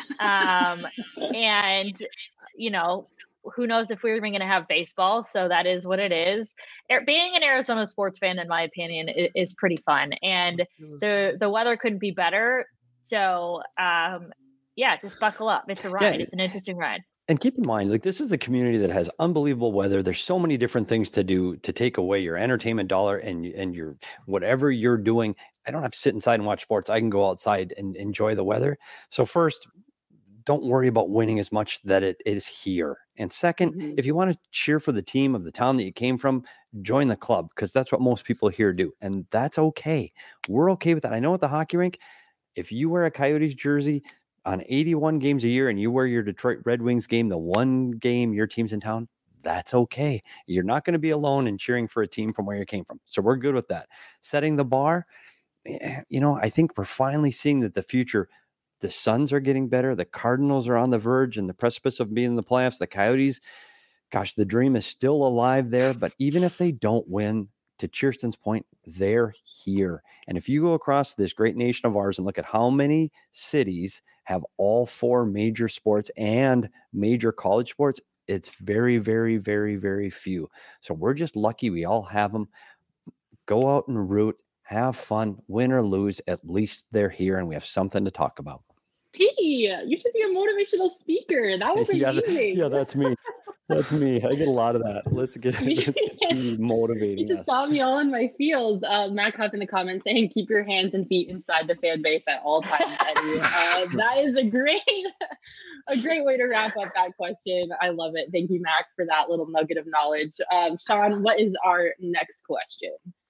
S4: And, who knows if we're even going to have baseball. So that is what it is. Being an Arizona sports fan, in my opinion, is pretty fun. And the weather couldn't be better. So, just buckle up. It's a ride. It's an interesting ride.
S3: And keep in mind, this is a community that has unbelievable weather. There's so many different things to do to take away your entertainment dollar and your whatever you're doing. I don't have to sit inside and watch sports. I can go outside and enjoy the weather. So first, don't worry about winning as much that it is here. And second, if you want to cheer for the team of the town that you came from, join the club because that's what most people here do. And that's okay. We're okay with that. I know at the hockey rink, if you wear a Coyotes jersey on 81 games a year and you wear your Detroit Red Wings game, the one game your team's in town, that's okay. You're not going to be alone in cheering for a team from where you came from. So we're good with that. Setting the bar, I think we're finally seeing that the future, the Suns are getting better. The Cardinals are on the verge and the precipice of being in the playoffs. The Coyotes, gosh, the dream is still alive there. But even if they don't win, to Kirsten's point, they're here. And if you go across this great nation of ours and look at how many cities have all 4 major sports and major college sports, it's very, very, very, very few. So we're just lucky we all have them. Go out and root, have fun, win or lose. At least they're here and we have something to talk about.
S1: You should be a motivational speaker. That was amazing.
S3: Yeah, that's me. That's me. I get a lot of that. Let's get motivating.
S1: You just got me all in my feels. Matt Cuff in the comments saying, "Keep your hands and feet inside the fan base at all times." Eddie. That is a great way to wrap up that question. I love it. Thank you, Mac, for that little nugget of knowledge. Sean, what is our next question?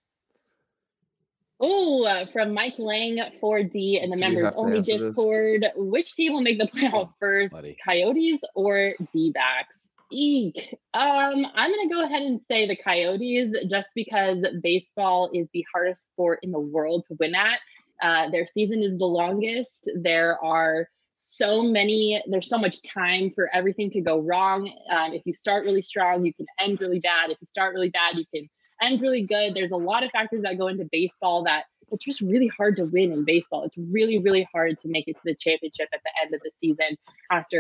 S1: Oh, from Mike Lang 4D in the members only Discord. Which team will make the playoff first, Coyotes or D-backs? Eek. I'm going to go ahead and say the Coyotes just because baseball is the hardest sport in the world to win at. Their season is the longest. There's so much time for everything to go wrong. If you start really strong, you can end really bad. If you start really bad, you can end really good. There's a lot of factors that go into baseball that it's just really hard to win in baseball. It's really, really hard to make it to the championship at the end of the season after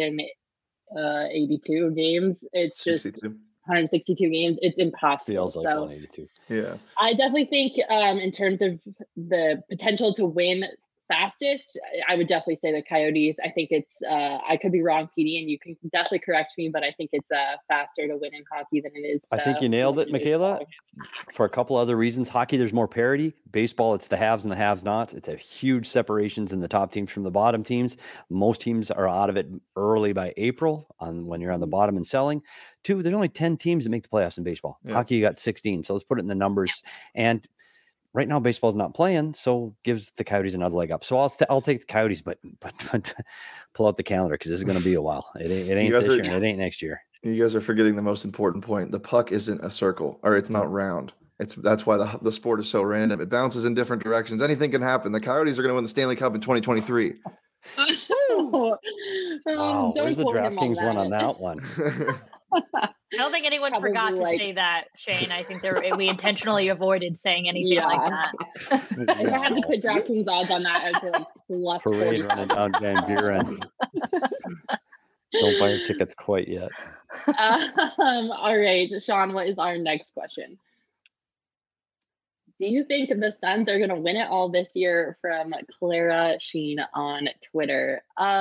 S1: 182 games. It's just 162 games. It's impossible.
S3: Feels like 182.
S2: Yeah.
S1: I definitely think in terms of the potential to win fastest, I would definitely say the Coyotes. I think it's, I could be wrong, PD, and you can definitely correct me, but I think it's faster to win in hockey than it is.
S3: I think you nailed it, Michaela. For a couple other reasons. Hockey, there's more parity. Baseball, it's the haves and the have-nots. It's a huge separations in the top teams from the bottom teams. Most teams are out of it early by April when you're on the bottom and selling. 2, there's only 10 teams that make the playoffs in baseball. Yeah. Hockey, you got 16. So let's put it in the numbers. And right now, baseball's not playing, so gives the Coyotes another leg up. So I'll take the Coyotes, but pull out the calendar because this is going to be a while. It ain't this year, and it ain't next year.
S2: You guys are forgetting the most important point. The puck isn't a circle, or it's not round. That's why the sport is so random. It bounces in different directions. Anything can happen. The Coyotes are going to win the Stanley Cup in 2023.
S3: Wow, where's the DraftKings one on that one?
S4: I don't think anyone forgot to say that, Shane. I think we intentionally avoided saying anything like that.
S1: I had to put DraftKings odds on that as like plus
S3: parade running down Van Buren. Don't buy your tickets quite yet.
S1: All right, Sean, what is our next question? Do you think the Suns are going to win it all this year? From Clara Sheen on Twitter.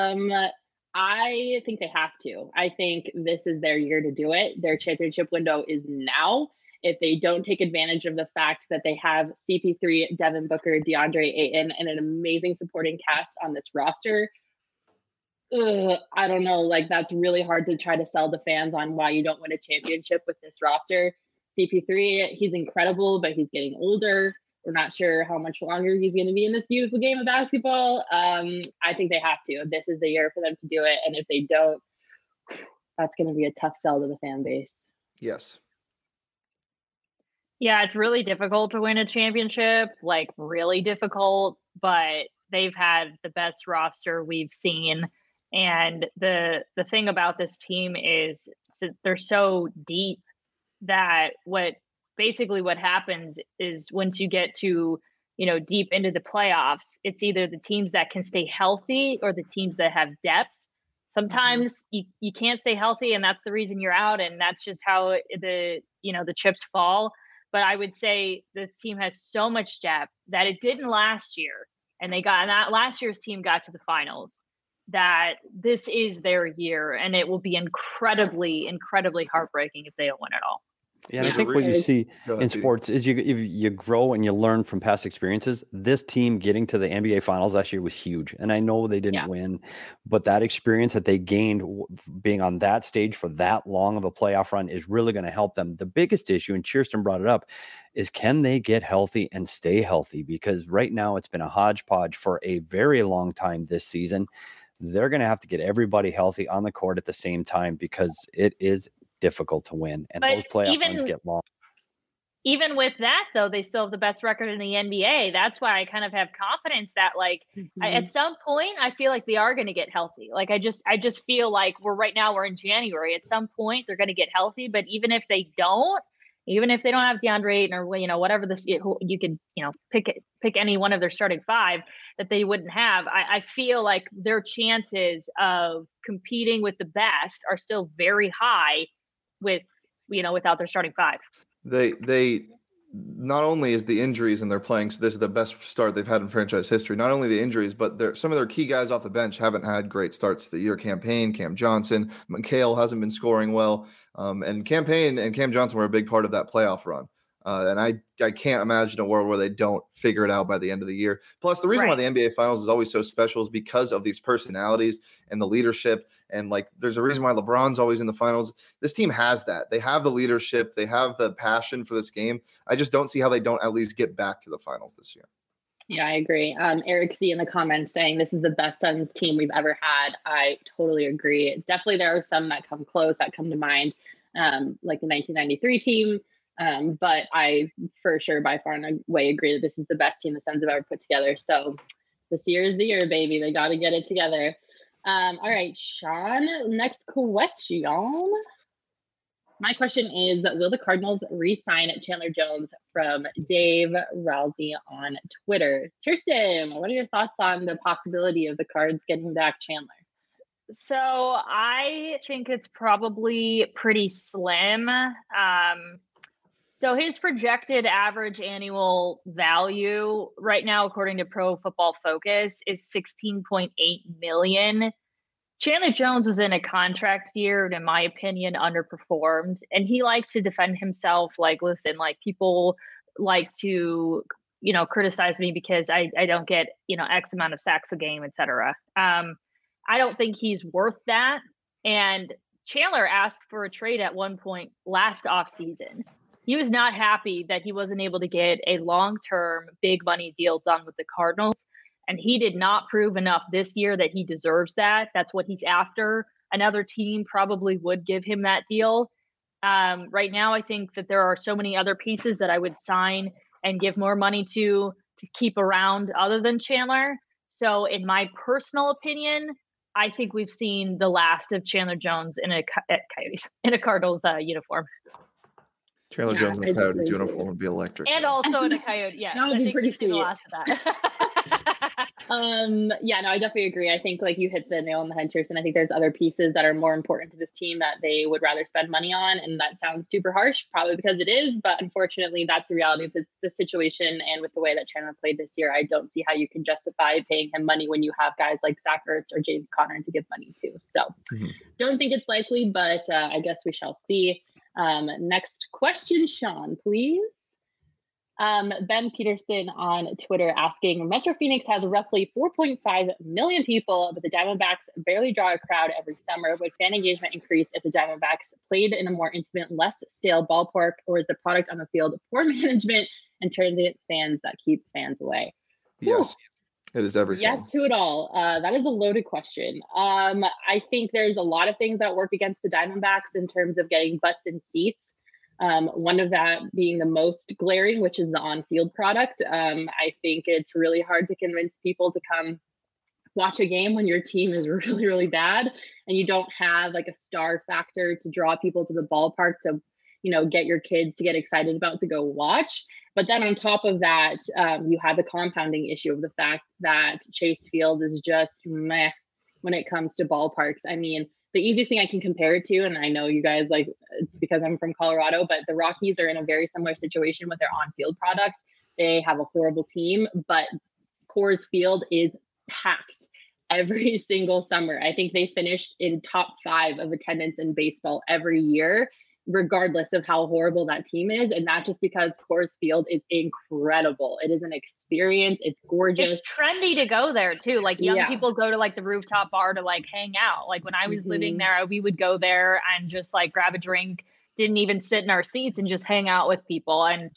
S1: I think they have to. I think this is their year to do it. Their championship window is now. If they don't take advantage of the fact that they have CP3, Devin Booker, DeAndre Ayton, and an amazing supporting cast on this roster, I don't know. Like, that's really hard to try to sell the fans on why you don't win a championship with this roster. CP3, he's incredible, but he's getting older. We're not sure how much longer he's going to be in this beautiful game of basketball. I think they have to. This is the year for them to do it. And if they don't, that's going to be a tough sell to the fan base.
S2: Yes.
S4: Yeah, it's really difficult to win a championship, like really difficult, but they've had the best roster we've seen. And the thing about this team is they're so deep that what happens is once you get to, deep into the playoffs, it's either the teams that can stay healthy or the teams that have depth. Sometimes you can't stay healthy, and that's the reason you're out. And that's just how the chips fall. But I would say this team has so much depth that it didn't last year. And last year's team got to the finals, that this is their year, and it will be incredibly, incredibly heartbreaking if they don't win it all.
S3: Yeah, and I think what you see in sports is you grow and you learn from past experiences. This team getting to the NBA Finals last year was huge, and I know they didn't win, but that experience that they gained being on that stage for that long of a playoff run is really going to help them. The biggest issue, and Kirsten brought it up, is can they get healthy and stay healthy? Because right now it's been a hodgepodge for a very long time this season. They're going to have to get everybody healthy on the court at the same time because it is difficult to win, and those playoff runs get long.
S4: Even with that, though, they still have the best record in the NBA. That's why I kind of have confidence that, at some point, I feel like they are going to get healthy. Like I just feel like we're in January. At some point, they're going to get healthy. But even if they don't have DeAndre Ayton or whatever you could pick any one of their starting five that they wouldn't have, I feel like their chances of competing with the best are still very high without their starting five.
S2: They not only is the injuries and they're playing, so this is the best start they've had in franchise history. Not only the injuries, but some of their key guys off the bench haven't had great starts to the year. Campaign, Cam Johnson, McHale hasn't been scoring well, and Campaign and Cam Johnson were a big part of that playoff run. And I can't imagine a world where they don't figure it out by the end of the year. Plus, the reason why the NBA Finals is always so special is because of these personalities and the leadership. And like, there's a reason why LeBron's always in the finals. This team has that. They have the leadership. They have the passion for this game. I just don't see how they don't at least get back to the finals this year.
S1: Yeah, I agree. Eric C in the comments saying this is the best Suns team we've ever had. I totally agree. Definitely there are some that come close, that come to mind, like the 1993 team. But I for sure by far and away agree that this is the best team the Suns have ever put together. So this year is the year, baby. They got to get it together. All right, Sean, next question. My question is, will the Cardinals re-sign Chandler Jones? From Dave Rousey on Twitter. Tristan, what are your thoughts on the possibility of the Cards getting back Chandler?
S4: So I think it's probably pretty slim. So his projected average annual value right now, according to Pro Football Focus, is $16.8 million. Chandler Jones was in a contract year and, in my opinion, underperformed. And he likes to defend himself. Like, listen, like, people like to, criticize me because I don't get, X amount of sacks a game, etc. I don't think he's worth that. And Chandler asked for a trade at one point last offseason. He was not happy that he wasn't able to get a long-term big money deal done with the Cardinals. And he did not prove enough this year that he deserves that. That's what he's after. Another team probably would give him that deal. Right now, I think that there are so many other pieces that I would sign and give more money to keep around other than Chandler. So in my personal opinion, I think we've seen the last of Chandler Jones in a Cardinals uniform.
S2: Chandler Jones in a Coyotes uniform would be electric.
S4: And also in a Coyote, yes.
S1: That would be pretty sweet.
S4: The last of that.
S1: I definitely agree. I think like you hit the nail on the head, Tristan. I think there's other pieces that are more important to this team that they would rather spend money on. And that sounds super harsh, probably because it is. But unfortunately, that's the reality of the situation. And with the way that Chandler played this year, I don't see how you can justify paying him money when you have guys like Zach Ertz or James Conner to give money to. So don't think it's likely, but I guess we shall see. Next question, Sean, please. Ben Peterson on Twitter asking, Metro Phoenix has roughly 4.5 million people, but the Diamondbacks barely draw a crowd every summer. Would fan engagement increase if the Diamondbacks played in a more intimate, less stale ballpark, or is the product on the field poor management and transient fans that keep fans away?
S2: Yes. It is everything.
S1: Yes to it all. That is a loaded question. I think there's a lot of things that work against the Diamondbacks in terms of getting butts in seats. One of that being the most glaring, which is the on-field product. I think it's really hard to convince people to come watch a game when your team is really, really bad and you don't have like a star factor to draw people to the ballpark to, get your kids to get excited about to go watch. But then on top of that, you have the compounding issue of the fact that Chase Field is just meh when it comes to ballparks. I mean, the easiest thing I can compare it to, and I know you guys like, it's because I'm from Colorado, but the Rockies are in a very similar situation with their on-field products. They have a horrible team, but Coors Field is packed every single summer. I think they finished in top 5 of attendance in baseball every year, regardless of how horrible that team is. And not just because Coors Field is incredible. It is an experience. It's gorgeous.
S4: It's trendy to go there too. Like young people go to like the rooftop bar to like hang out. Like when I was living there, we would go there and just like grab a drink, didn't even sit in our seats and just hang out with people. And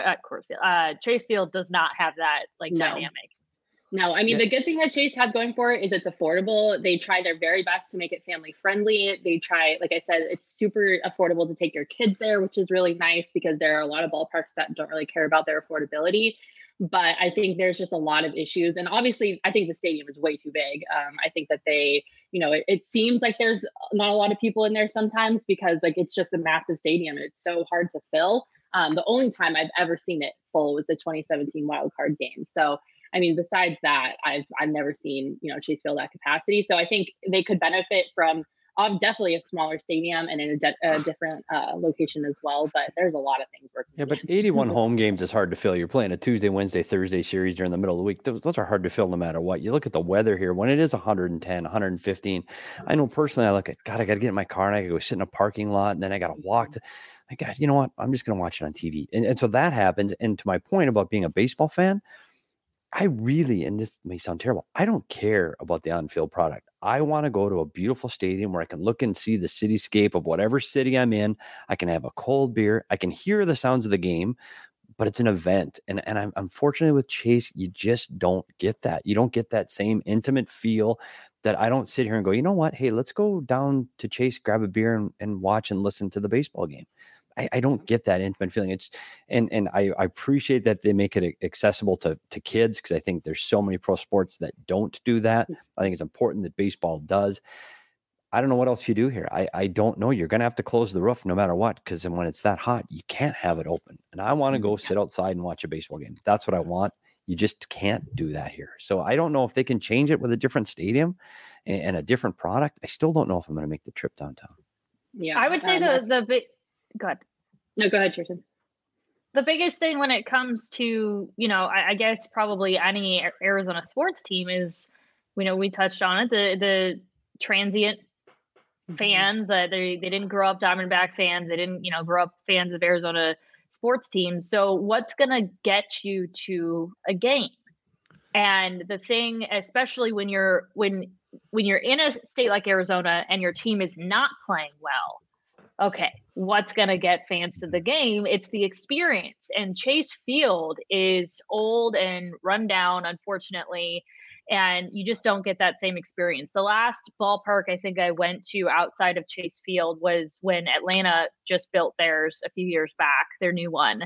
S4: Chase Field does not have that dynamic.
S1: No, I mean, the good thing that Chase has going for it is it's affordable. They try their very best to make it family friendly. They try, like I said, it's super affordable to take your kids there, which is really nice because there are a lot of ballparks that don't really care about their affordability. But I think there's just a lot of issues. And obviously, I think the stadium is way too big. I think that they, it seems like there's not a lot of people in there sometimes because like it's just a massive stadium. It's so hard to fill. The only time I've ever seen it full was the 2017 wild card game. So I mean, besides that, I've never seen, Chase Field at capacity. So I think they could benefit from definitely a smaller stadium and in a different location as well. But there's a lot of things working.
S3: Yeah, but 81 home games is hard to fill. You're playing a Tuesday, Wednesday, Thursday series during the middle of the week. Those are hard to fill no matter what. You look at the weather here when it is 110, 115. I know personally, I look at, God, I got to get in my car and I got to go sit in a parking lot and then I got to walk to, God, you know what? I'm just going to watch it on TV. And so that happens. And to my point about being a baseball fan, I really, and this may sound terrible, I don't care about the on-field product. I want to go to a beautiful stadium where I can look and see the cityscape of whatever city I'm in. I can have a cold beer. I can hear the sounds of the game, but it's an event. And I'm unfortunately with Chase, you just don't get that. You don't get that same intimate feel that I don't sit here and go, you know what? Hey, let's go down to Chase, grab a beer and watch and listen to the baseball game. I don't get that intimate feeling. It's and I appreciate that they make it accessible to kids because I think there's so many pro sports that don't do that. I think it's important that baseball does. I don't know what else you do here. I don't know. You're going to have to close the roof no matter what because when it's that hot, you can't have it open. And I want to go sit outside and watch a baseball game. That's what I want. You just can't do that here. So I don't know if they can change it with a different stadium and a different product. I still don't know if I'm going to make the trip downtown.
S4: Yeah, I would say the big. Good.
S1: No, go ahead, Tristan.
S4: The biggest thing when it comes to, I guess probably any Arizona sports team is, we touched on it, the transient fans. They didn't grow up Diamondback fans. They didn't, grow up fans of Arizona sports teams. So what's going to get you to a game? And the thing, especially when you're in a state like Arizona and your team is not playing well, okay, what's going to get fans to the game? It's the experience. And Chase Field is old and run down, unfortunately, and you just don't get that same experience. The last ballpark I think I went to outside of Chase Field was when Atlanta just built theirs a few years back, their new one.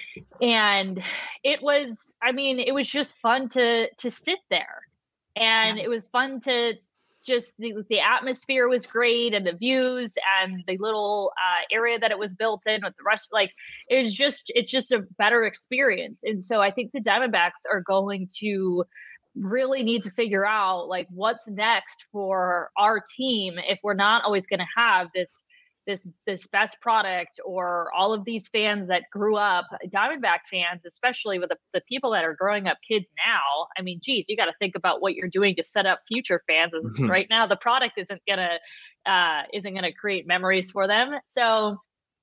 S4: And it was just fun to sit there. And it was fun to just the atmosphere was great and the views and the little area that it was built in with the rest, it's just a better experience. And so I think the Diamondbacks are going to really need to figure out what's next for our team if we're not always going to have this best product or all of these fans that grew up, Diamondback fans, especially with the people that are growing up kids now. I mean, geez, you got to think about what you're doing to set up future fans. Right now, the product isn't gonna create memories for them. So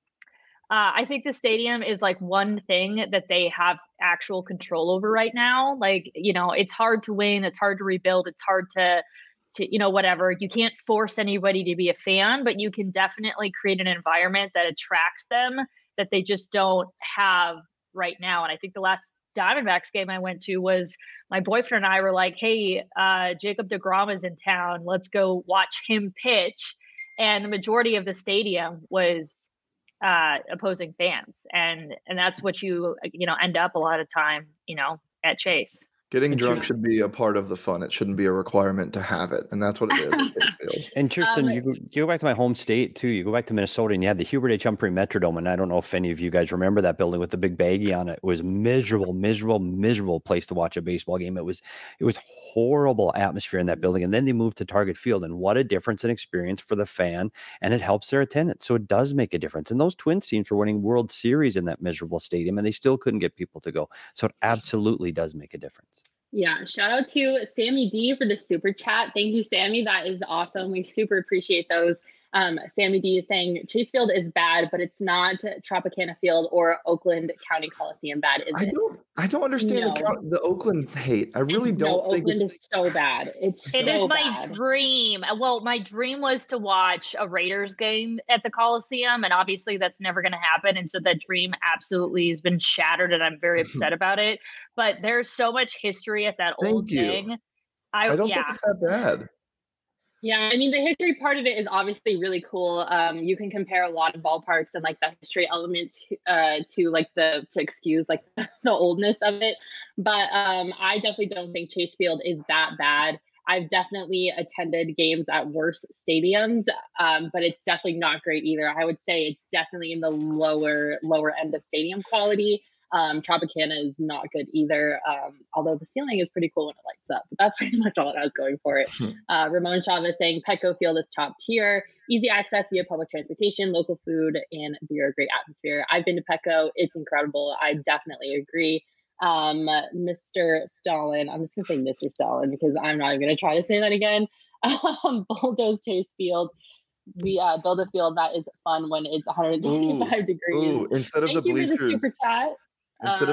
S4: I think the stadium is one thing that they have actual control over right now. It's hard to win. It's hard to rebuild. It's hard to whatever. You can't force anybody to be a fan, but you can definitely create an environment that attracts them that they just don't have right now. And I think the last Diamondbacks game I went to was my boyfriend and I were like, hey, Jacob deGrom is in town. Let's go watch him pitch. And the majority of the stadium was opposing fans. And that's what you end up a lot of time, at Chase.
S2: Getting drunk should be a part of the fun. It shouldn't be a requirement to have it. And that's what it is.
S3: And Tristan, you go back to my home state too. You go back to Minnesota and you had the Hubert H. Humphrey Metrodome. And I don't know if any of you guys remember that building with the big baggie on it. It was miserable place to watch a baseball game. It was horrible atmosphere in that building. And then they moved to Target Field. And what a difference in experience for the fan. And it helps their attendance. So it does make a difference. And those Twins teams were winning World Series in that miserable stadium and they still couldn't get people to go. So it absolutely does make a difference.
S1: Yeah. Shout out to Sammy D for the super chat. Thank you, Sammy. That is awesome. We super appreciate those. Sammy D is saying Chase Field is bad, but it's not Tropicana Field or Oakland County Coliseum bad, is it?
S2: I don't understand the Oakland hate. I really don't think
S1: Oakland is so bad. It
S4: is my dream. Well, my dream was to watch a Raiders game at the Coliseum, and obviously that's never going to happen. And so that dream absolutely has been shattered, and I'm very upset about it. But there's so much history at that old thing.
S2: I don't think it's that bad.
S1: Yeah, I mean, the history part of it is obviously really cool. You can compare a lot of ballparks and the history element to excuse the oldness of it. But I definitely don't think Chase Field is that bad. I've definitely attended games at worse stadiums, but it's definitely not great either. I would say it's definitely in the lower end of stadium quality. Tropicana is not good either, although the ceiling is pretty cool when it lights up. But that's pretty much all it has going for it. Ramon Chavez saying Petco Field is top tier, easy access via public transportation, local food, and beer, great atmosphere. I've been to Petco. It's incredible. I definitely agree. Mr. Stalin, I'm just going to say Mr. Stalin because I'm not even going to try to say that again. Bulldoze Chase Field. We build a field that is fun when it's 125 degrees.
S2: Instead of the bleachers.
S1: For the super chat.
S2: Instead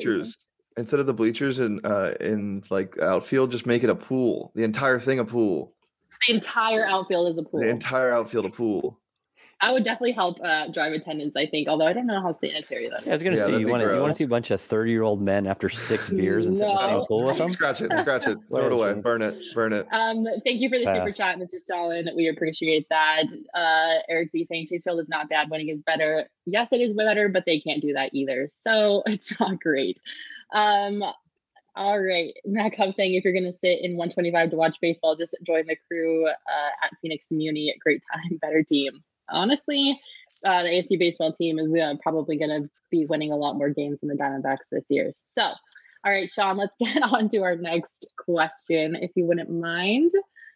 S2: of the bleachers in like outfield, just make it a pool. The entire thing a pool.
S1: The entire outfield is a pool.
S2: The entire outfield a pool.
S1: I would definitely help drive attendance, I think, although I don't know how sanitary that is.
S3: Yeah, I was going to say, you want to see a bunch of 30-year-old men after 6 beers and sit in the same pool with them?
S2: Scratch it. Throw it away. Burn it.
S1: Thank you for the super chat, Mr. Stalin. We appreciate that. Eric Z saying Chase Field is not bad. Winning is better. Yes, it is better, but they can't do that either. So it's not great. All right. Matt Cub saying if you're going to sit in 125 to watch baseball, just join the crew at Phoenix Muni. Great time, better team. Honestly, the AFC baseball team is probably going to be winning a lot more games than the Diamondbacks this year. So, all right, Sean, let's get on to our next question, if you wouldn't mind.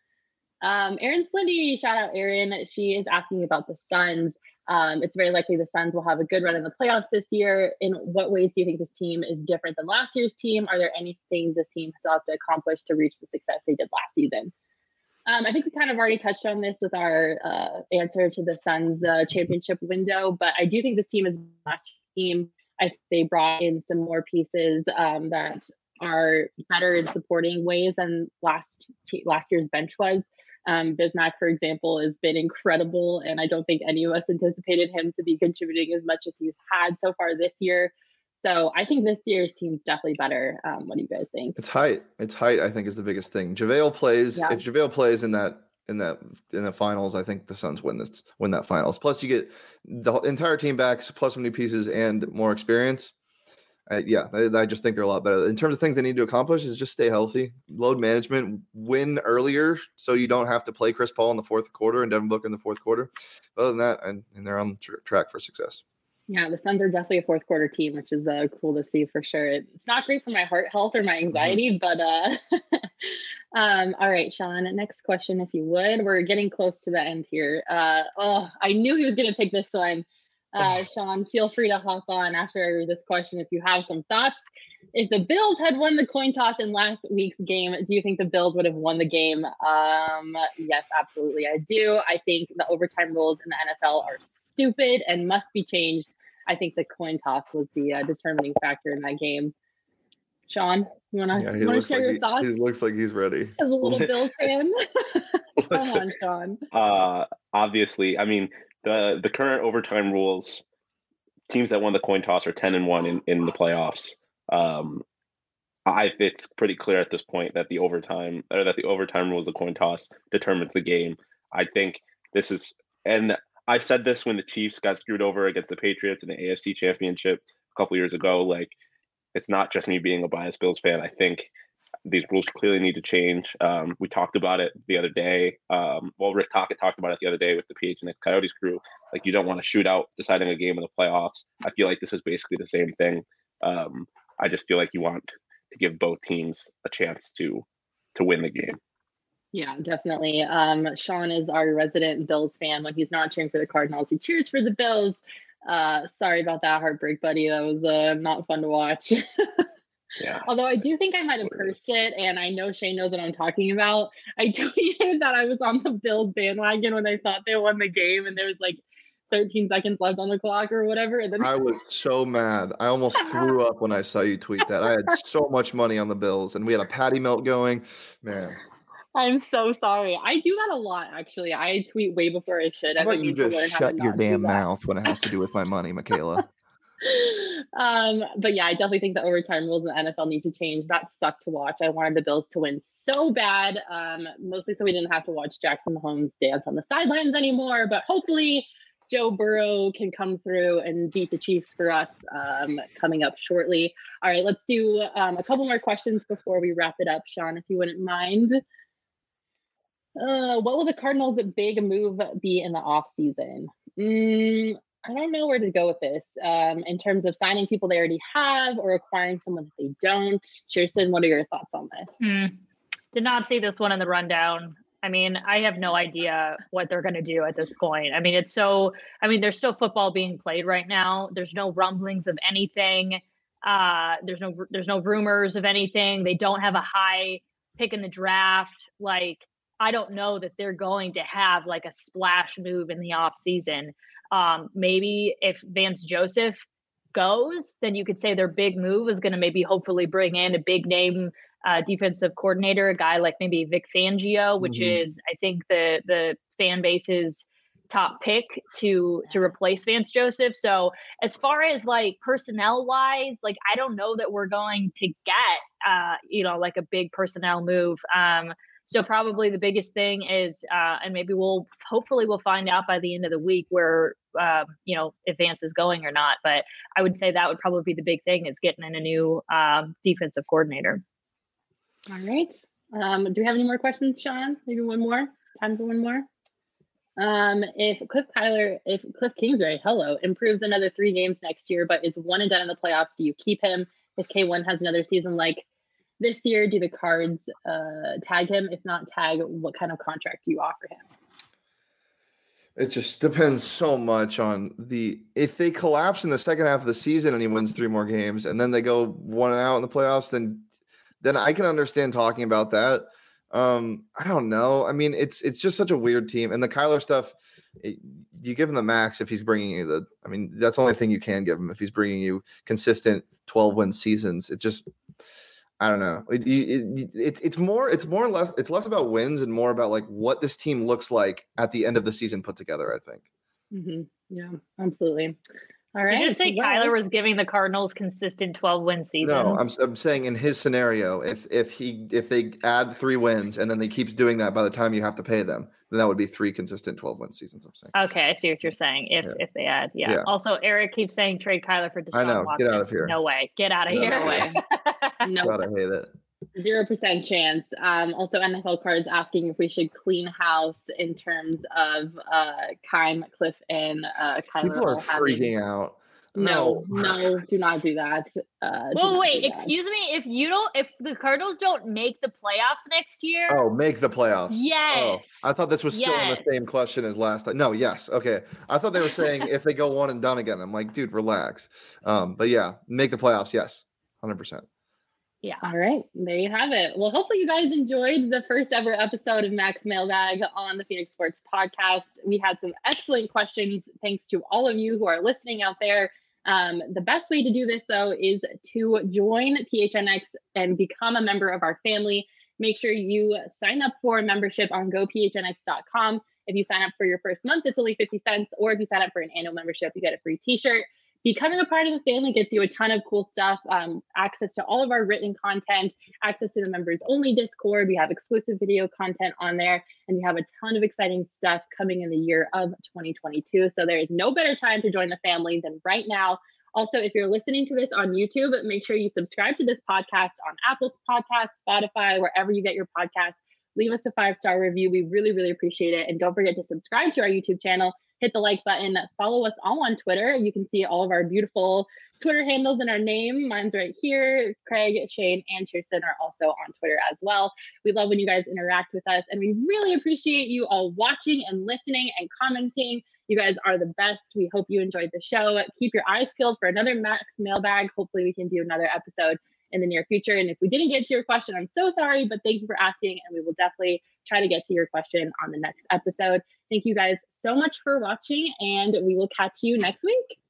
S1: Erin Slindy, shout out Erin. She is asking about the Suns. It's very likely the Suns will have a good run in the playoffs this year. In what ways do you think this team is different than last year's team? Are there any things this team has to accomplish to reach the success they did last season? I think we kind of already touched on this with our answer to the Suns championship window, but I do think this team is the last team. I think they brought in some more pieces that are better in supporting ways than last year's bench was. Bismack, for example, has been incredible, and I don't think any of us anticipated him to be contributing as much as he's had so far this year. So I think this year's team's definitely better. What do you guys think?
S2: It's height. I think is the biggest thing. JaVale plays. Yeah. If JaVale plays in the finals, I think the Suns win that finals. Plus, you get the entire team back, plus some new pieces and more experience. I just think they're a lot better. In terms of things they need to accomplish is just stay healthy, load management, win earlier so you don't have to play Chris Paul in the fourth quarter and Devin Booker in the fourth quarter. Other than that, and they're on track for success.
S1: Yeah, the Suns are definitely a fourth quarter team, which is cool to see for sure. It's not great for my heart health or my anxiety, but all right, Sean, next question, if you would. We're getting close to the end here. I knew he was going to pick this one. Sean, feel free to hop on after I read this question if you have some thoughts. If the Bills had won the coin toss in last week's game, do you think the Bills would have won the game? Yes, absolutely, I do. I think the overtime rules in the NFL are stupid and must be changed. I think the coin toss was the determining factor in that game. Sean, you want to share your thoughts?
S2: He looks like he's ready.
S1: As a little Bills fan. Come on, Sean.
S5: Obviously, I mean, the current overtime rules, teams that won the coin toss are 10-1 in the playoffs. It's pretty clear at this point that the overtime rules, the coin toss, determines the game. I think this is, and I said this when the Chiefs got screwed over against the Patriots in the AFC Championship a couple years ago. Like, it's not just me being a biased Bills fan. I think these rules clearly need to change. We talked about it the other day. Rick Tocchet talked about it the other day with the PHNX Coyotes crew. Like, you don't want to shoot out deciding a game in the playoffs. I feel like this is basically the same thing. I just feel like you want to give both teams a chance to win the game.
S1: Yeah, definitely. Sean is our resident Bills fan. When he's not cheering for the Cardinals, he cheers for the Bills. Sorry about that heartbreak, buddy. That was not fun to watch.
S5: Yeah.
S1: Although I do think I might have cursed it, and I know Shane knows what I'm talking about. I tweeted that I was on the Bills bandwagon when I thought they won the game, and there was like 13 seconds left on the clock or whatever. And then
S2: I was so mad. I almost threw up when I saw you tweet that. I had so much money on the Bills, and we had a patty melt going. Man.
S1: I'm so sorry. I do that a lot, actually. I tweet way before I should.
S2: How about you just shut your damn mouth when it has to do with my money, Michaela?
S1: But yeah, I definitely think the overtime rules in the NFL need to change. That sucked to watch. I wanted the Bills to win so bad, mostly so we didn't have to watch Jackson Mahomes dance on the sidelines anymore. But hopefully Joe Burrow can come through and beat the Chiefs for us coming up shortly. All right, let's do a couple more questions before we wrap it up, Sean, if you wouldn't mind. What will the Cardinals' big move be in the offseason? I don't know where to go with this in terms of signing people they already have or acquiring someone that they don't. Kirsten, what are your thoughts on this?
S4: Did not see this one in the rundown. I mean, I have no idea what they're going to do at this point. I mean, there's still football being played right now. There's no rumblings of anything. There's no rumors of anything. They don't have a high pick in the draft. Like, I don't know that they're going to have like a splash move in the off season. Maybe if Vance Joseph goes, then you could say their big move is going to maybe hopefully bring in a big name defensive coordinator, a guy like maybe Vic Fangio, which is, I think, the fan base's top pick to replace Vance Joseph. So as far as like personnel wise, like I don't know that we're going to get like a big personnel move. So probably the biggest thing is, and maybe we'll find out by the end of the week where, if Vance is going or not. But I would say that would probably be the big thing, is getting in a new defensive coordinator.
S1: All right. Do we have any more questions, Sean? Maybe one more? Time for one more? If Cliff Kingsbury, improves another 3 games next year, but is 1 and done in the playoffs, do you keep him? If K1 has another season like this year, do the Cards tag him? If not tag, what kind of contract do you offer him?
S2: It just depends so much on if they collapse in the second half of the season and he wins 3 more games and then they go 1 out in the playoffs, then I can understand talking about that. I don't know. I mean, it's just such a weird team. And the Kyler stuff, you give him the max if he's bringing you that's the only thing you can give him if he's bringing you consistent 12-win seasons. It just, I don't know. It's less about wins and more about like what this team looks like at the end of the season put together, I think.
S1: Mm-hmm. Yeah, absolutely. All right.
S4: Did you say Kyler was giving the Cardinals consistent 12-win seasons?
S2: No, I'm saying in his scenario, if they add 3 wins and then he keeps doing that by the time you have to pay them, then that would be 3 consistent 12-win seasons. I'm saying.
S4: Okay, I see what you're saying. If they add, yeah. Also, Eric keeps saying trade Kyler for Deshaun
S2: I know.
S4: Watson.
S2: Get out of here.
S4: No way. Get out of here.
S1: No way. No.
S2: God, I hate it.
S1: 0% chance. Also, NFL Cards asking if we should clean house in terms of Keim, Cliff, and Kyler.
S2: People are freaking out.
S1: No, do not do that.
S4: Well, wait, excuse me. If the Cardinals don't make the playoffs next year.
S2: Oh, make the playoffs.
S4: Yes.
S2: Oh, I thought this was still on the same question as last time. No, yes. Okay. I thought they were saying if they go 1 and done again. I'm like, dude, relax. But yeah, make the playoffs. Yes. 100%.
S4: Yeah.
S1: All right. There you have it. Well, hopefully you guys enjoyed the first ever episode of Max Mailbag on the Phoenix Sports Podcast. We had some excellent questions. Thanks to all of you who are listening out there. The best way to do this, though, is to join PHNX and become a member of our family. Make sure you sign up for a membership on gophnx.com. If you sign up for your first month, it's only 50 cents. Or if you sign up for an annual membership, you get a free t-shirt. Becoming a part of the family gets you a ton of cool stuff, access to all of our written content, access to the members only Discord. We have exclusive video content on there, and we have a ton of exciting stuff coming in the year of 2022. So there is no better time to join the family than right now. Also, if you're listening to this on YouTube, make sure you subscribe to this podcast on Apple Podcasts, Spotify, wherever you get your podcasts. Leave us a 5-star review. We really, really appreciate it. And don't forget to subscribe to our YouTube channel. Hit the like button. Follow us all on Twitter. You can see all of our beautiful Twitter handles in our name. Mine's right here. Craig, Shane, and Kirsten are also on Twitter as well. We love when you guys interact with us, and we really appreciate you all watching and listening and commenting. You guys are the best. We hope you enjoyed the show. Keep your eyes peeled for another Max Mailbag. Hopefully we can do another episode in the near future. And if we didn't get to your question, I'm so sorry, but thank you for asking. And we will definitely try to get to your question on the next episode. Thank you guys so much for watching, and we will catch you next week.